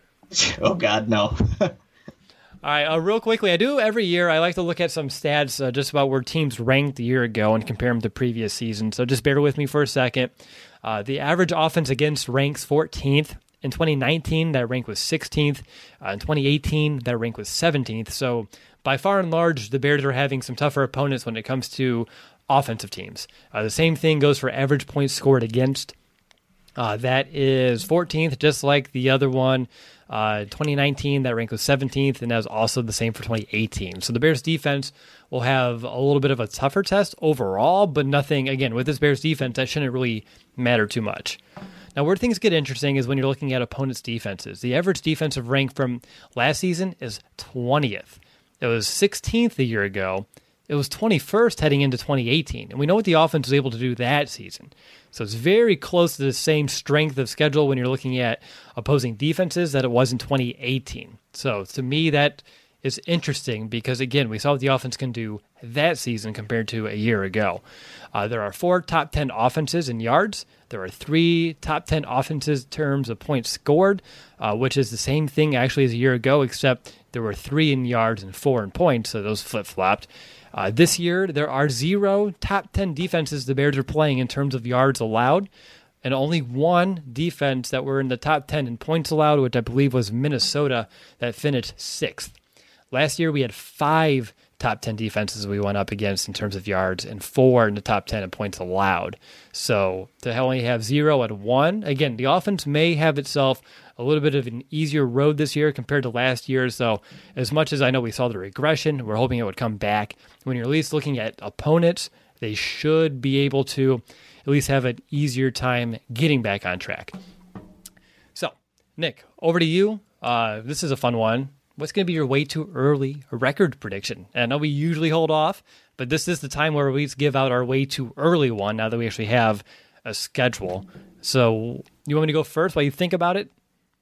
Oh, God, no. All right, uh, real quickly, I do every year, I like to look at some stats uh, just about where teams ranked a year ago and compare them to previous seasons. So just bear with me for a second. Uh, the average offense against ranks fourteenth. In twenty nineteen, that rank was sixteenth. Uh, in twenty eighteen, that rank was seventeenth. So by far and large, the Bears are having some tougher opponents when it comes to offensive teams. Uh, the same thing goes for average points scored against. Uh, that is fourteenth, just like the other one. Uh, twenty nineteen, that rank was seventeenth, and that was also the same for twenty eighteen. So the Bears defense will have a little bit of a tougher test overall, but nothing, again, with this Bears defense, that shouldn't really matter too much. Now, where things get interesting is when you're looking at opponents' defenses. The average defensive rank from last season is twentieth. It was sixteenth a year ago. It was twenty-first heading into twenty eighteen. And we know what the offense was able to do that season. So it's very close to the same strength of schedule when you're looking at opposing defenses that it was in twenty eighteen. So to me, that is interesting because, again, we saw what the offense can do that season compared to a year ago. Uh, there are four top ten offenses in yards. There are three top ten offenses in terms of points scored, uh, which is the same thing actually as a year ago, except there were three in yards and four in points, so those flip-flopped. Uh, this year, there are zero top ten defenses the Bears are playing in terms of yards allowed, and only one defense that were in the top ten in points allowed, which I believe was Minnesota, that finished sixth. Last year, we had five top ten defenses we went up against in terms of yards, and four in the top ten in points allowed. So to only have zero and one, again, the offense may have itself a little bit of an easier road this year compared to last year. So as much as I know we saw the regression, we're hoping it would come back. When you're at least looking at opponents, they should be able to at least have an easier time getting back on track. So, Nick, over to you. Uh, this is a fun one. What's going to be your way too early record prediction? And I know we usually hold off, but this is the time where we give out our way too early one now that we actually have a schedule. So you want me to go first while you think about it?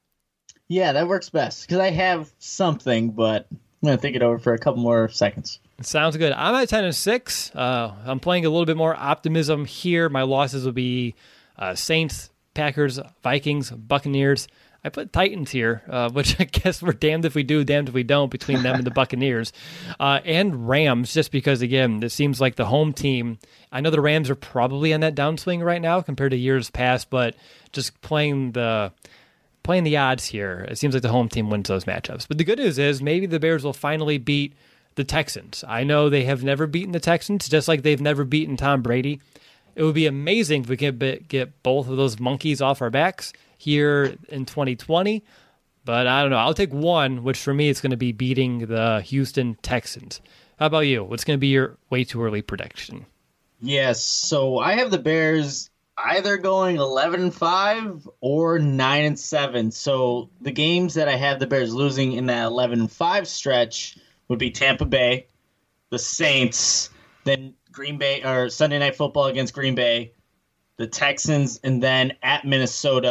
Yeah, that works best because I have something, but I'm going to think it over for a couple more seconds. Sounds good. I'm at ten and six. Uh, I'm playing a little bit more optimism here. My losses will be uh, Saints, Packers, Vikings, Buccaneers. I put Titans here, uh, which I guess we're damned if we do, damned if we don't between them and the Buccaneers. Uh, and Rams, just because, again, it seems like the home team. I know the Rams are probably on that downswing right now compared to years past, but just playing the playing the odds here, it seems like the home team wins those matchups. But the good news is maybe the Bears will finally beat the Texans. I know they have never beaten the Texans, just like they've never beaten Tom Brady. It would be amazing if we could get both of those monkeys off our backs here in twenty twenty, but I don't know. I'll take one, which for me it's going to be beating the Houston Texans. How about you? What's going to be your way too early prediction? Yes, so I have the Bears either going eleven and five or nine and seven. So the games that I have the Bears losing in that eleven and five stretch would be Tampa Bay, the Saints, then Green Bay or Sunday Night Football against Green Bay, the Texans, and then at Minnesota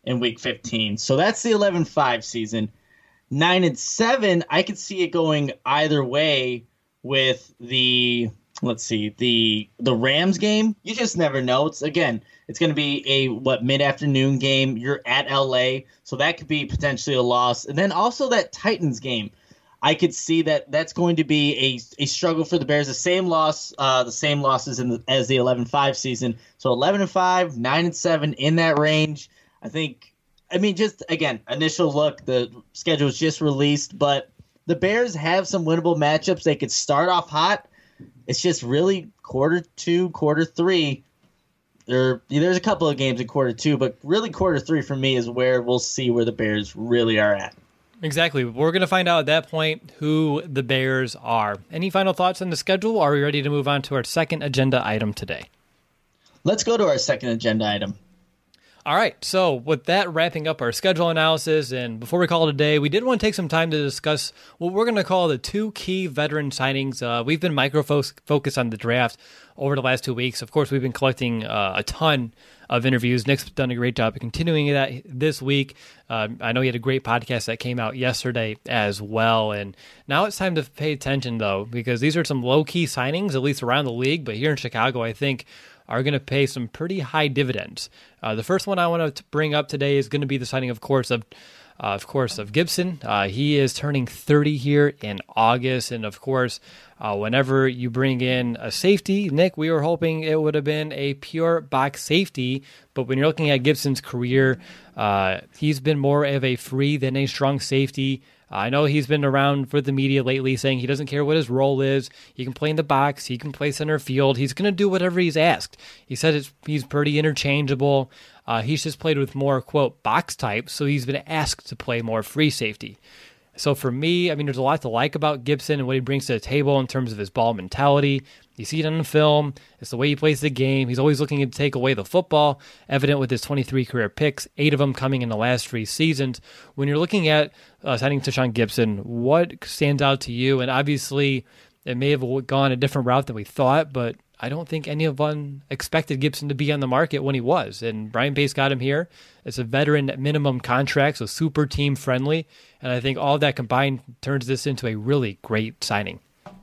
in week fifteen. So that's the eleven five season. nine and seven, I could see it going either way with the, let's see, the the Rams game. You just never know. It's again, it's going to be a, what, mid-afternoon game. You're at L A, so that could be potentially a loss. And then also that Titans game. I could see that that's going to be a, a struggle for the Bears. The same loss, uh, the same losses in the, as the eleven five season. So eleven and five, nine and seven, in that range. I think, I mean, just, again, initial look, the schedule was just released, but the Bears have some winnable matchups. They could start off hot. It's just really quarter two, quarter three. There, there's a couple of games in quarter two, but really quarter three for me is where we'll see where the Bears really are at. Exactly. We're going to find out at that point who the Bears are. Any final thoughts on the schedule? Or are we ready to move on to our second agenda item today? Let's go to our second agenda item. All right, so with that wrapping up our schedule analysis, and before we call it a day, we did want to take some time to discuss what we're going to call the two key veteran signings. Uh, we've been micro-focused on the draft over the last two weeks. Of course, we've been collecting uh, a ton of interviews. Nick's done a great job of continuing that this week. Um, I know he had a great podcast that came out yesterday as well, and now it's time to pay attention, though, because these are some low-key signings, at least around the league, but here in Chicago, I think are going to pay some pretty high dividends. Uh, the first one I want to bring up today is going to be the signing, of course, of uh, of course, of Gibson. Uh, he is turning thirty here in August, and of course, uh, whenever you bring in a safety, Nick, we were hoping it would have been a pure box safety, but when you're looking at Gibson's career, uh, he's been more of a free than a strong safety. I know he's been around for the media lately saying he doesn't care what his role is. He can play in the box. He can play center field. He's going to do whatever he's asked. He said it's, he's pretty interchangeable. Uh, he's just played with more, quote, box types, so he's been asked to play more free safety. So for me, I mean, there's a lot to like about Gibson and what he brings to the table in terms of his ball mentality. You see it on the film. It's the way he plays the game. He's always looking to take away the football, evident with his twenty-three career picks, eight of them coming in the last three seasons. When you're looking at uh, signing Tashaun Gibson, what stands out to you? And obviously, it may have gone a different route than we thought, but I don't think any of one expected Gibson to be on the market when he was. And Ryan Pace got him here. It's a veteran minimum contract, so super team friendly. And I think all of that combined turns this into a really great signing.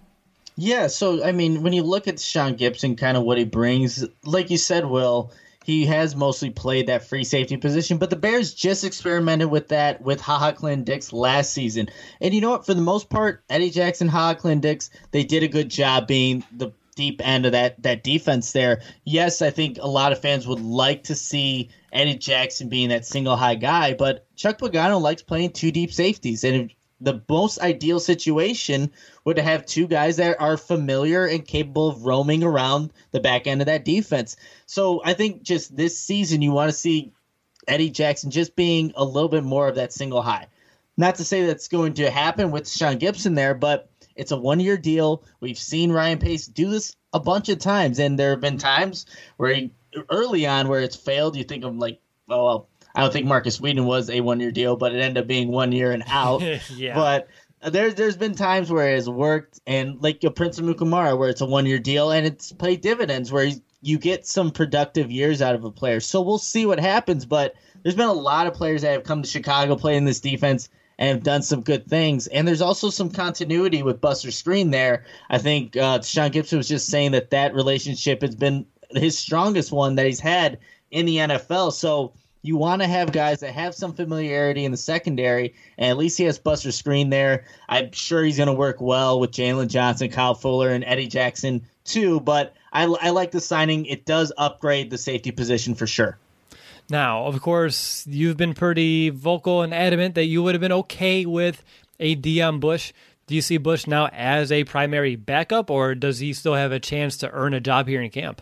Yeah, so, I mean, when you look at Tashaun Gibson, kind of what he brings, like you said, Will, he has mostly played that free safety position, but the Bears just experimented with that with HaHa Clinton-Dix last season. And you know what? For the most part, Eddie Jackson, HaHa Clinton-Dix, they did a good job being the deep end of that that defense there. Yes, I think a lot of fans would like to see Eddie Jackson being that single high guy, but Chuck Pagano likes playing two deep safeties, and the most ideal situation would have two guys that are familiar and capable of roaming around the back end of that defense. So I think just this season you want to see Eddie Jackson just being a little bit more of that single high. Not to say that's going to happen with Tashaun Gibson there, but it's a one-year deal. We've seen Ryan Pace do this a bunch of times, and there have been times where he, early on where it's failed. You think of like, oh, well, I don't think Marcus Whedon was a one-year deal, but it ended up being one year and out. Yeah. But there's there's been times where it has worked, and like a Prince Amukamara, where it's a one-year deal, and it's paid dividends, where you get some productive years out of a player. So we'll see what happens, but there's been a lot of players that have come to Chicago playing this defense and have done some good things. And there's also some continuity with Buster Skrine there. I think uh, Tashaun Gibson was just saying that that relationship has been his strongest one that he's had in the N F L. So you want to have guys that have some familiarity in the secondary, and at least he has Buster Skrine there. I'm sure he's going to work well with Jalen Johnson, Kyle Fuller, and Eddie Jackson too. But I, I like the signing. It does upgrade the safety position for sure. Now, of course, you've been pretty vocal and adamant that you would have been okay with a Deon Bush. Do you see Bush now as a primary backup, or does he still have a chance to earn a job here in camp?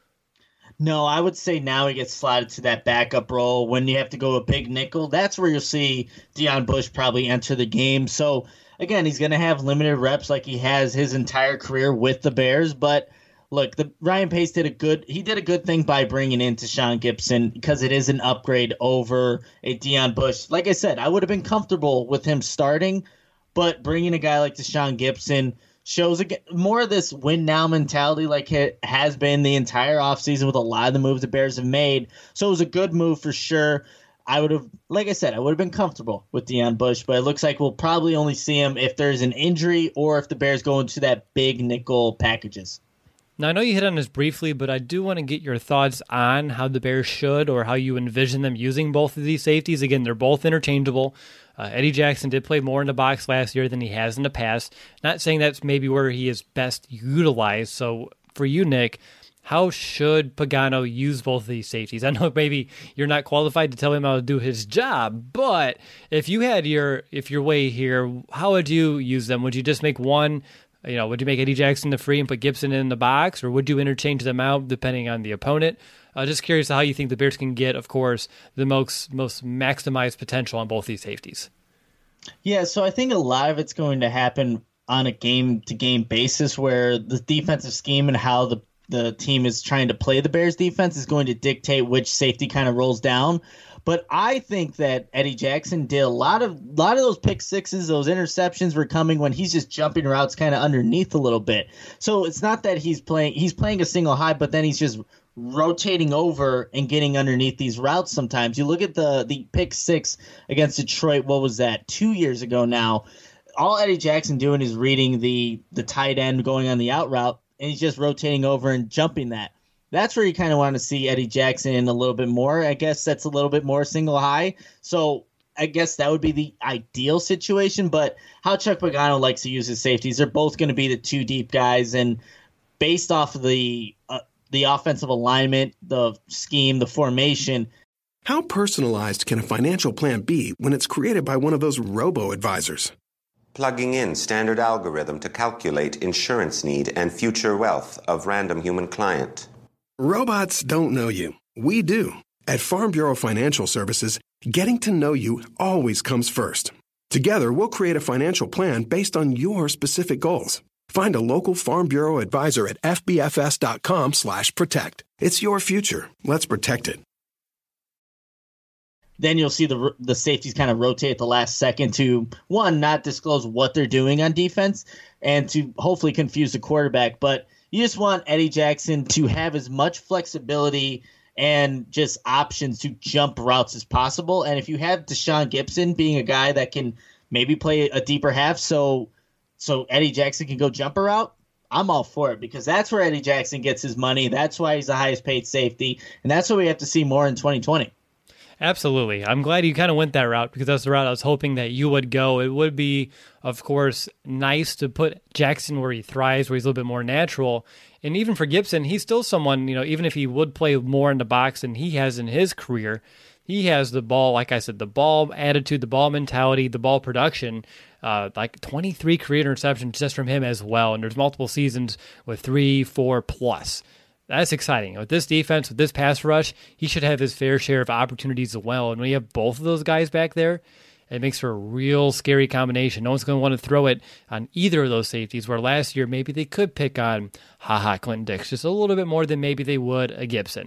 No, I would say now he gets slotted to that backup role. When you have to go a big nickel, that's where you'll see Deon Bush probably enter the game. So, again, he's going to have limited reps like he has his entire career with the Bears, but look, the Ryan Pace did a good he did a good thing by bringing in Tashaun Gibson because it is an upgrade over a Deon Bush. Like I said, I would have been comfortable with him starting, but bringing a guy like Tashaun Gibson shows again, more of this win now mentality like it has been the entire offseason with a lot of the moves the Bears have made. So it was a good move for sure. I would have, like I said, I would have been comfortable with Deion Bush, but it looks like we'll probably only see him if there's an injury or if the Bears go into that big nickel packages. Now, I know you hit on this briefly, but I do want to get your thoughts on how the Bears should or how you envision them using both of these safeties. Again, they're both interchangeable. Uh, Eddie Jackson did play more in the box last year than he has in the past. Not saying that's maybe where he is best utilized. So for you, Nick, how should Pagano use both of these safeties? I know maybe you're not qualified to tell him how to do his job, but if you had your if your way here, how would you use them? Would you just make one? You know, would you make Eddie Jackson the free and put Gibson in the box, or would you interchange them out depending on the opponent? Uh, just curious how you think the Bears can get, of course, the most most maximized potential on both these safeties. Yeah, so I think a lot of it's going to happen on a game-to-game basis where the defensive scheme and how the, the team is trying to play the Bears defense is going to dictate which safety kind of rolls down. But I think that Eddie Jackson did a lot of lot of those pick sixes, those interceptions were coming when he's just jumping routes kind of underneath a little bit. So it's not that he's playing he's playing a single high, but then he's just rotating over and getting underneath these routes sometimes. You look at the the pick six against Detroit, what was that, two years ago now. All Eddie Jackson doing is reading the the tight end going on the out route, and he's just rotating over and jumping that. That's where you kind of want to see Eddie Jackson a little bit more. I guess that's a little bit more single high. So I guess that would be the ideal situation. But how Chuck Pagano likes to use his safeties, they're both going to be the two deep guys. And based off of the uh, the offensive alignment, the scheme, the formation. How personalized can a financial plan be when it's created by one of those robo-advisors? Plugging in standard algorithm to calculate insurance need and future wealth of random human client. Robots don't know you. We do. At Farm Bureau Financial Services, getting to know you always comes first. Together, we'll create a financial plan based on your specific goals. Find a local Farm Bureau advisor at fbfs.com slash protect. It's your future. Let's protect it. Then you'll see the the safeties kind of rotate at the last second to, one, not disclose what they're doing on defense, and to hopefully confuse the quarterback. But you just want Eddie Jackson to have as much flexibility and just options to jump routes as possible. And if you have Deshaun Gibson being a guy that can maybe play a deeper half so so Eddie Jackson can go jump a route, I'm all for it, because that's where Eddie Jackson gets his money. That's why he's the highest paid safety, and that's what we have to see more in twenty twenty. Absolutely. I'm glad you kind of went that route, because that's the route I was hoping that you would go. It would be, of course, nice to put Jackson where he thrives, where he's a little bit more natural. And even for Gibson, he's still someone, you know, even if he would play more in the box than he has in his career, he has the ball, like I said, the ball attitude, the ball mentality, the ball production, uh, like twenty-three career interceptions just from him as well. And there's multiple seasons with three, four plus. That's exciting. With this defense, with this pass rush, he should have his fair share of opportunities as well. And when you have both of those guys back there, it makes for a real scary combination. No one's going to want to throw it on either of those safeties, where last year maybe they could pick on, haha, Clinton Dix just a little bit more than maybe they would a Gibson.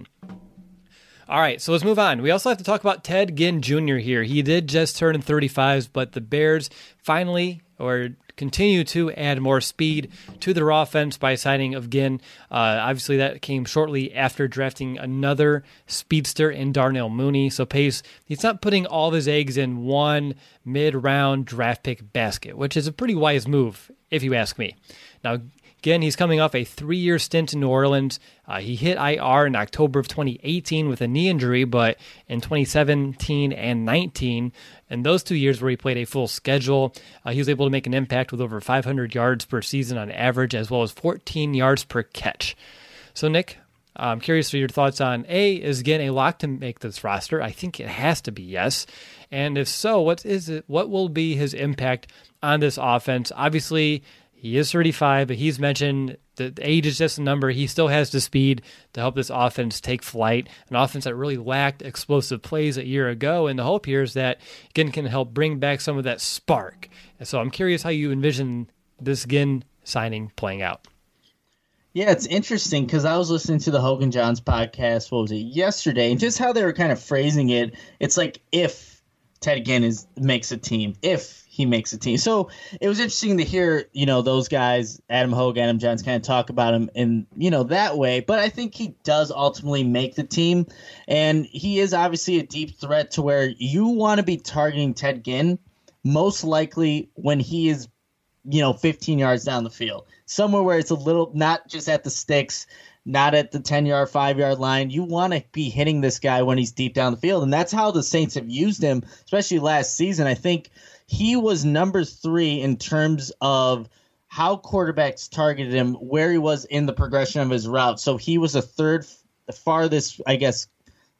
All right, so let's move on. We also have to talk about Ted Ginn Junior here. He did just turn thirty-five, but the Bears finally, or continue to add more speed to their offense by signing of Ginn. Uh, obviously, that came shortly after drafting another speedster in Darnell Mooney. So Pace, he's not putting all of his eggs in one mid-round draft pick basket, which is a pretty wise move, if you ask me. Now, again, he's coming off a three-year stint in New Orleans. Uh, he hit I R in October of twenty eighteen with a knee injury, but in twenty seventeen and nineteen, in those two years where he played a full schedule, uh, he was able to make an impact with over five hundred yards per season on average, as well as fourteen yards per catch. So, Nick, I'm curious for your thoughts on, A, is Ginn a lock to make this roster? I think it has to be yes. And if so, what is it? What will be his impact on this offense? Obviously, he is thirty-five, but he's mentioned that age is just a number. He still has the speed to help this offense take flight, an offense that really lacked explosive plays a year ago. And the hope here is that Ginn can help bring back some of that spark. And so I'm curious how you envision this Ginn signing playing out. Yeah, it's interesting because I was listening to the Hogan Johns podcast, what was it, yesterday, and just how they were kind of phrasing it. It's like if. Ted Ginn is makes a team, if he makes a team. So it was interesting to hear, you know, those guys, Adam Hogue, Adam Johns, kind of talk about him in, you know, that way. But I think he does ultimately make the team. And he is obviously a deep threat to where you want to be targeting Ted Ginn most likely when he is, you know, fifteen yards down the field. Somewhere where it's a little, not just at the sticks, not at the ten-yard, five-yard line. You want to be hitting this guy when he's deep down the field. And that's how the Saints have used him, especially last season. I think he was number three in terms of how quarterbacks targeted him, where he was in the progression of his route. So he was a third farthest, I guess,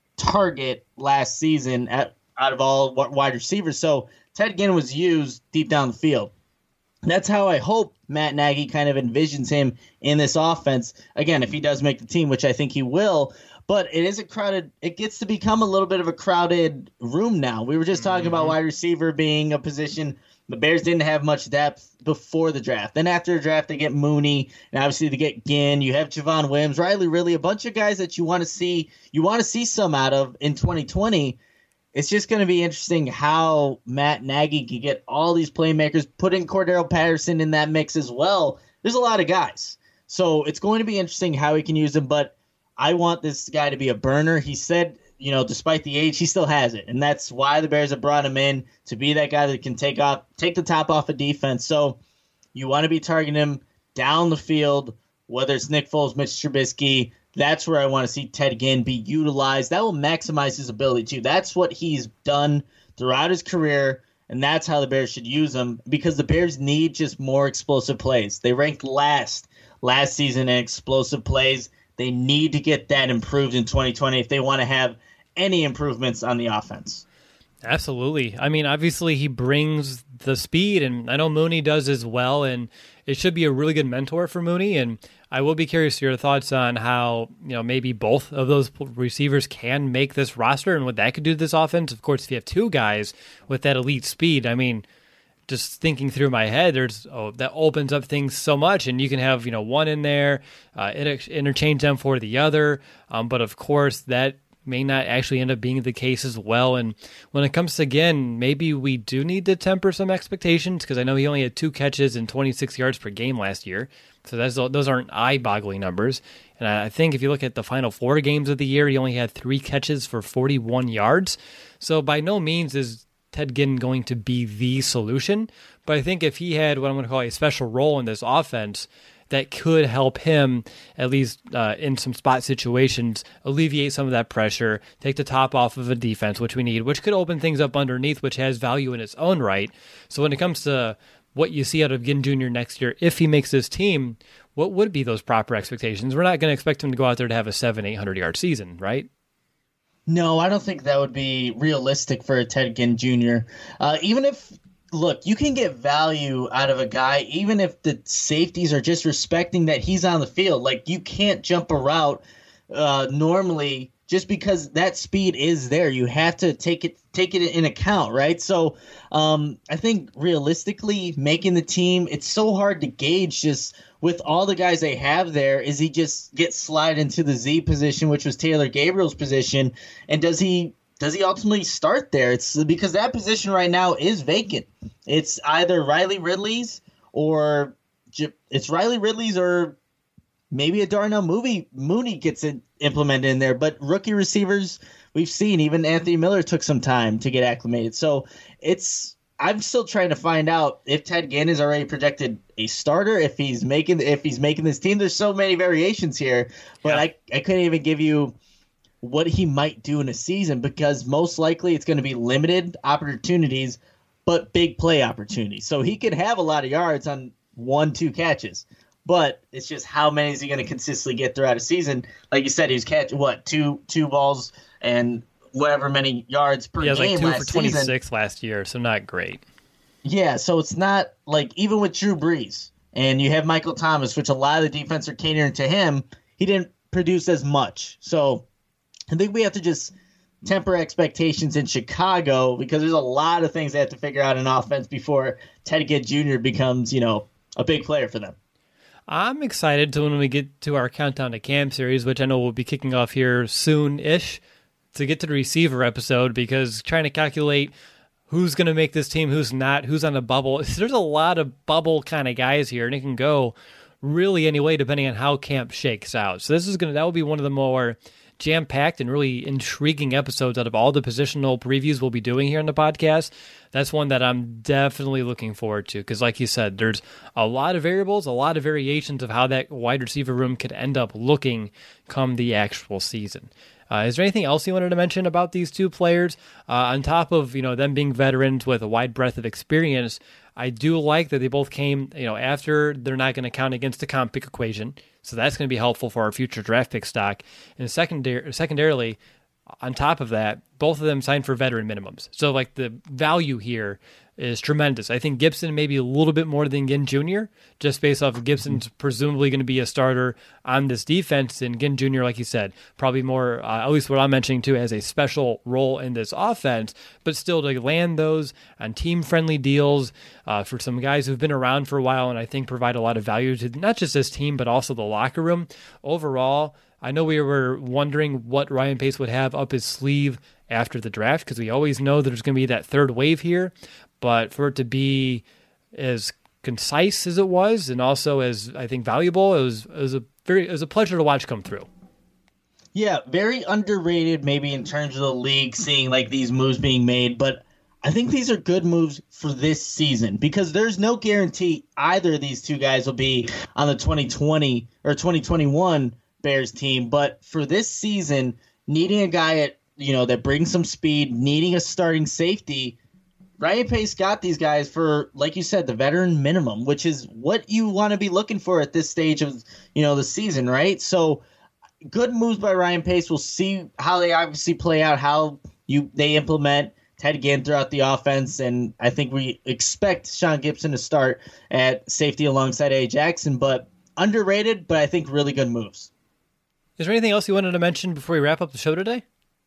target last season at, out of all wide receivers. So Ted Ginn was used deep down the field. That's how I hope Matt Nagy kind of envisions him in this offense. Again, if he does make the team, which I think he will, but it is a crowded, it gets to become a little bit of a crowded room now. We were just talking mm-hmm. about wide receiver being a position. The Bears didn't have much depth before the draft. Then after the draft, they get Mooney, and obviously they get Ginn. You have Javon Williams, Riley Ridley, a bunch of guys that you want to see, you want to see some out of in twenty twenty. It's just going to be interesting how Matt Nagy can get all these playmakers, putting Cordero Patterson in that mix as well. There's a lot of guys. So it's going to be interesting how he can use them, but I want this guy to be a burner. He said, you know, despite the age, he still has it. And that's why the Bears have brought him in, to be that guy that can take off, take the top off of defense. So you want to be targeting him down the field, whether it's Nick Foles, Mitch Trubisky. That's where I want to see Ted Ginn be utilized. That will maximize his ability, too. That's what he's done throughout his career, and that's how the Bears should use him, because the Bears need just more explosive plays. They ranked last last season in explosive plays. They need to get that improved in twenty twenty if they want to have any improvements on the offense. Absolutely. I mean, obviously he brings the speed, and I know Mooney does as well, and it should be a really good mentor for Mooney. And I will be curious to your thoughts on how, you know, maybe both of those receivers can make this roster and what that could do to this offense. Of course, if you have two guys with that elite speed, I mean, just thinking through my head, there's oh, that opens up things so much, and you can have, you know, one in there, uh, inter- interchange them for the other. Um, but of course, that may not actually end up being the case as well. And when it comes to Ginn, maybe we do need to temper some expectations, because I know he only had two catches and twenty-six yards per game last year. So that's, those aren't eye-boggling numbers. And I think if you look at the final four games of the year, he only had three catches for forty-one yards. So by no means is Ted Ginn going to be the solution. But I think if he had what I'm going to call a special role in this offense, that could help him, at least uh, in some spot situations, alleviate some of that pressure, take the top off of a defense, which we need, which could open things up underneath, which has value in its own right. So when it comes to what you see out of Ginn Junior next year, if he makes this team, what would be those proper expectations? We're not going to expect him to go out there to have a seven, eight hundred yard season, right? No, I don't think that would be realistic for a Ted Ginn Junior Uh, even if, look, you can get value out of a guy even if the safeties are just respecting that he's on the field. Like, you can't jump a route uh, normally just because that speed is there. You have to take it take it in account, right? So um, I think realistically making the team, it's so hard to gauge just with all the guys they have there. Is he just get slide into the Z position, which was Taylor Gabriel's position, and does he Does he ultimately start there? It's because that position right now is vacant. It's either Riley Ridley's or it's Riley Ridley's or maybe a Darnell Mooney Mooney gets it implemented in there. But rookie receivers, we've seen even Anthony Miller took some time to get acclimated. So it's I'm still trying to find out if Ted Ginn is already projected a starter, if he's making if he's making this team. There's so many variations here, but yeah. I I couldn't even give you what he might do in a season, because most likely it's going to be limited opportunities, but big play opportunities. So he could have a lot of yards on one, two catches, but it's just how many is he going to consistently get throughout a season? Like you said, he was catching what two two balls and whatever many yards per yeah, game like two last for twenty-six season. last year, so not great. Yeah, so it's not like even with Drew Brees and you have Michael Thomas, which a lot of the defense are catering to him, he didn't produce as much. So I think we have to just temper expectations in Chicago, because there's a lot of things they have to figure out in offense before Ted Ginn Junior becomes, you know, a big player for them. I'm excited to when we get to our Countdown to Camp series, which I know will be kicking off here soon-ish, to get to the receiver episode, because trying to calculate who's going to make this team, who's not, who's on the bubble. There's a lot of bubble kind of guys here, and it can go really any way depending on how camp shakes out. So this is going to, that will be one of the more jam-packed and really intriguing episodes out of all the positional previews we'll be doing here on the podcast. That's one that I'm definitely looking forward to because, like you said, there's a lot of variables, a lot of variations of how that wide receiver room could end up looking come the actual season. Uh, is there anything else you wanted to mention about these two players? Uh, on top of, you know, them being veterans with a wide breadth of experience, I do like that they both came, you know, after they're not going to count against the comp pick equation. So that's going to be helpful for our future draft pick stock. And secondar- secondarily, on top of that, both of them signed for veteran minimums. So, like, the value here is tremendous. I think Gibson maybe a little bit more than Ginn Junior, just based off of Gibson's presumably going to be a starter on this defense. And Ginn Junior, like you said, probably more, uh, at least what I'm mentioning too, as a special role in this offense, but still to land those on team-friendly deals uh, for some guys who've been around for a while and I think provide a lot of value to not just this team, but also the locker room. Overall, I know we were wondering what Ryan Pace would have up his sleeve after the draft because we always know that there's going to be that third wave here. But for it to be as concise as it was, and also as I think valuable, it was, it was a very it was a pleasure to watch come through. Yeah, very underrated, maybe in terms of the league, seeing like these moves being made. But I think these are good moves for this season because there's no guarantee either of these two guys will be on the twenty twenty or twenty twenty-one Bears team. But for this season, needing a guy at you know that brings some speed, needing a starting safety. Ryan Pace got these guys for, like you said, the veteran minimum, which is what you want to be looking for at this stage of, you know, the season, right? So good moves by Ryan Pace. We'll see how they obviously play out, how you they implement Ted Ginn throughout the offense, and I think we expect Sean Gibson to start at safety alongside A. Jackson, but underrated, but I think really good moves. Is there anything else you wanted to mention before we wrap up the show today?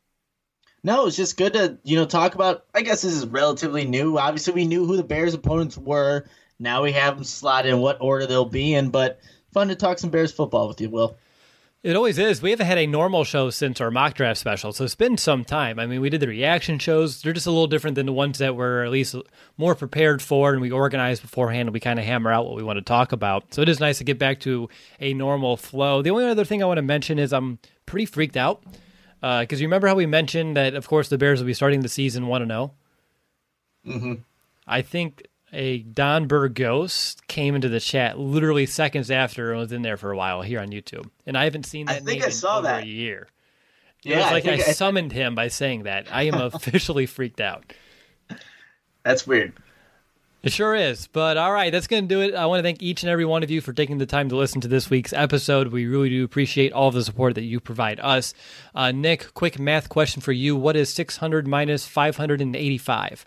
No, it's just good to, you know, talk about, I guess this is relatively new. Obviously, we knew who the Bears' opponents were. Now we have them slotted in what order they'll be in, but fun to talk some Bears football with you, Will. It always is. We haven't had a normal show since our mock draft special, so it's been some time. I mean, we did the reaction shows. They're just a little different than the ones that we're at least more prepared for, and we organized beforehand, and we kind of hammer out what we want to talk about. So it is nice to get back to a normal flow. The only other thing I want to mention is I'm pretty freaked out. Because uh, you remember how we mentioned that, of course, the Bears will be starting the season one and oh? Mm-hmm. I think a Don Burgos came into the chat literally seconds after and was in there for a while here on YouTube. And I haven't seen that I think name I saw in over that. a year. Yeah, it was like I, I, I summoned him by saying that. I am officially freaked out. That's weird. It sure is. But all right, that's going to do it. I want to thank each and every one of you for taking the time to listen to this week's episode. We really do appreciate all of the support that you provide us. Uh, Nick, quick math question for you. What is six hundred minus five hundred eighty-five?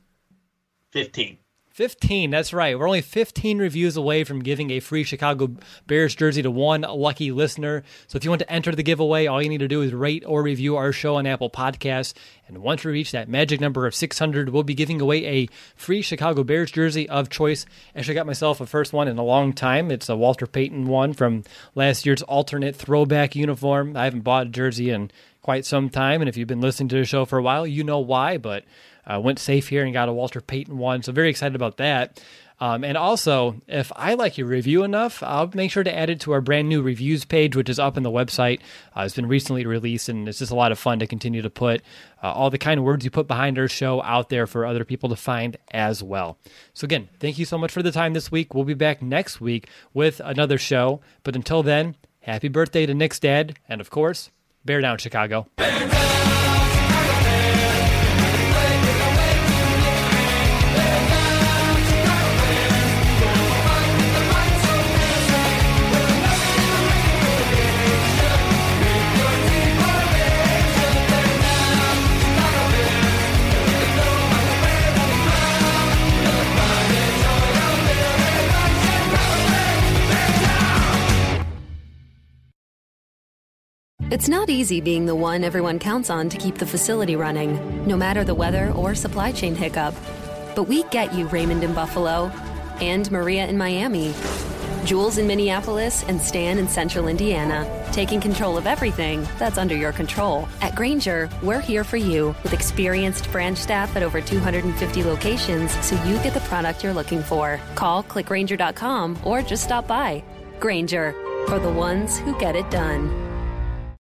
fifteen. fifteen, that's right. We're only fifteen reviews away from giving a free Chicago Bears jersey to one lucky listener. So if you want to enter the giveaway, all you need to do is rate or review our show on Apple Podcasts. And once we reach that magic number of six hundred, we'll be giving away a free Chicago Bears jersey of choice. Actually, I got myself a first one in a long time. It's a Walter Payton one from last year's alternate throwback uniform. I haven't bought a jersey in quite some time, and if you've been listening to the show for a while, you know why, but I uh, went safe here and got a Walter Payton one, so very excited about that. Um, and also, if I like your review enough, I'll make sure to add it to our brand new reviews page, which is up on the website. Uh, it's been recently released, and it's just a lot of fun to continue to put uh, all the kind of words you put behind our show out there for other people to find as well. So again, thank you so much for the time this week. We'll be back next week with another show. But until then, happy birthday to Nick's dad, and of course, Bear Down, Chicago. Bear down! It's not easy being the one everyone counts on to keep the facility running, no matter the weather or supply chain hiccup. But we get you, Raymond in Buffalo, and Maria in Miami. Jules in Minneapolis and Stan in Central Indiana, taking control of everything that's under your control. At Grainger, we're here for you with experienced branch staff at over two hundred fifty locations so you get the product you're looking for. Call click grainger dot com or just stop by. Grainger, for the ones who get it done.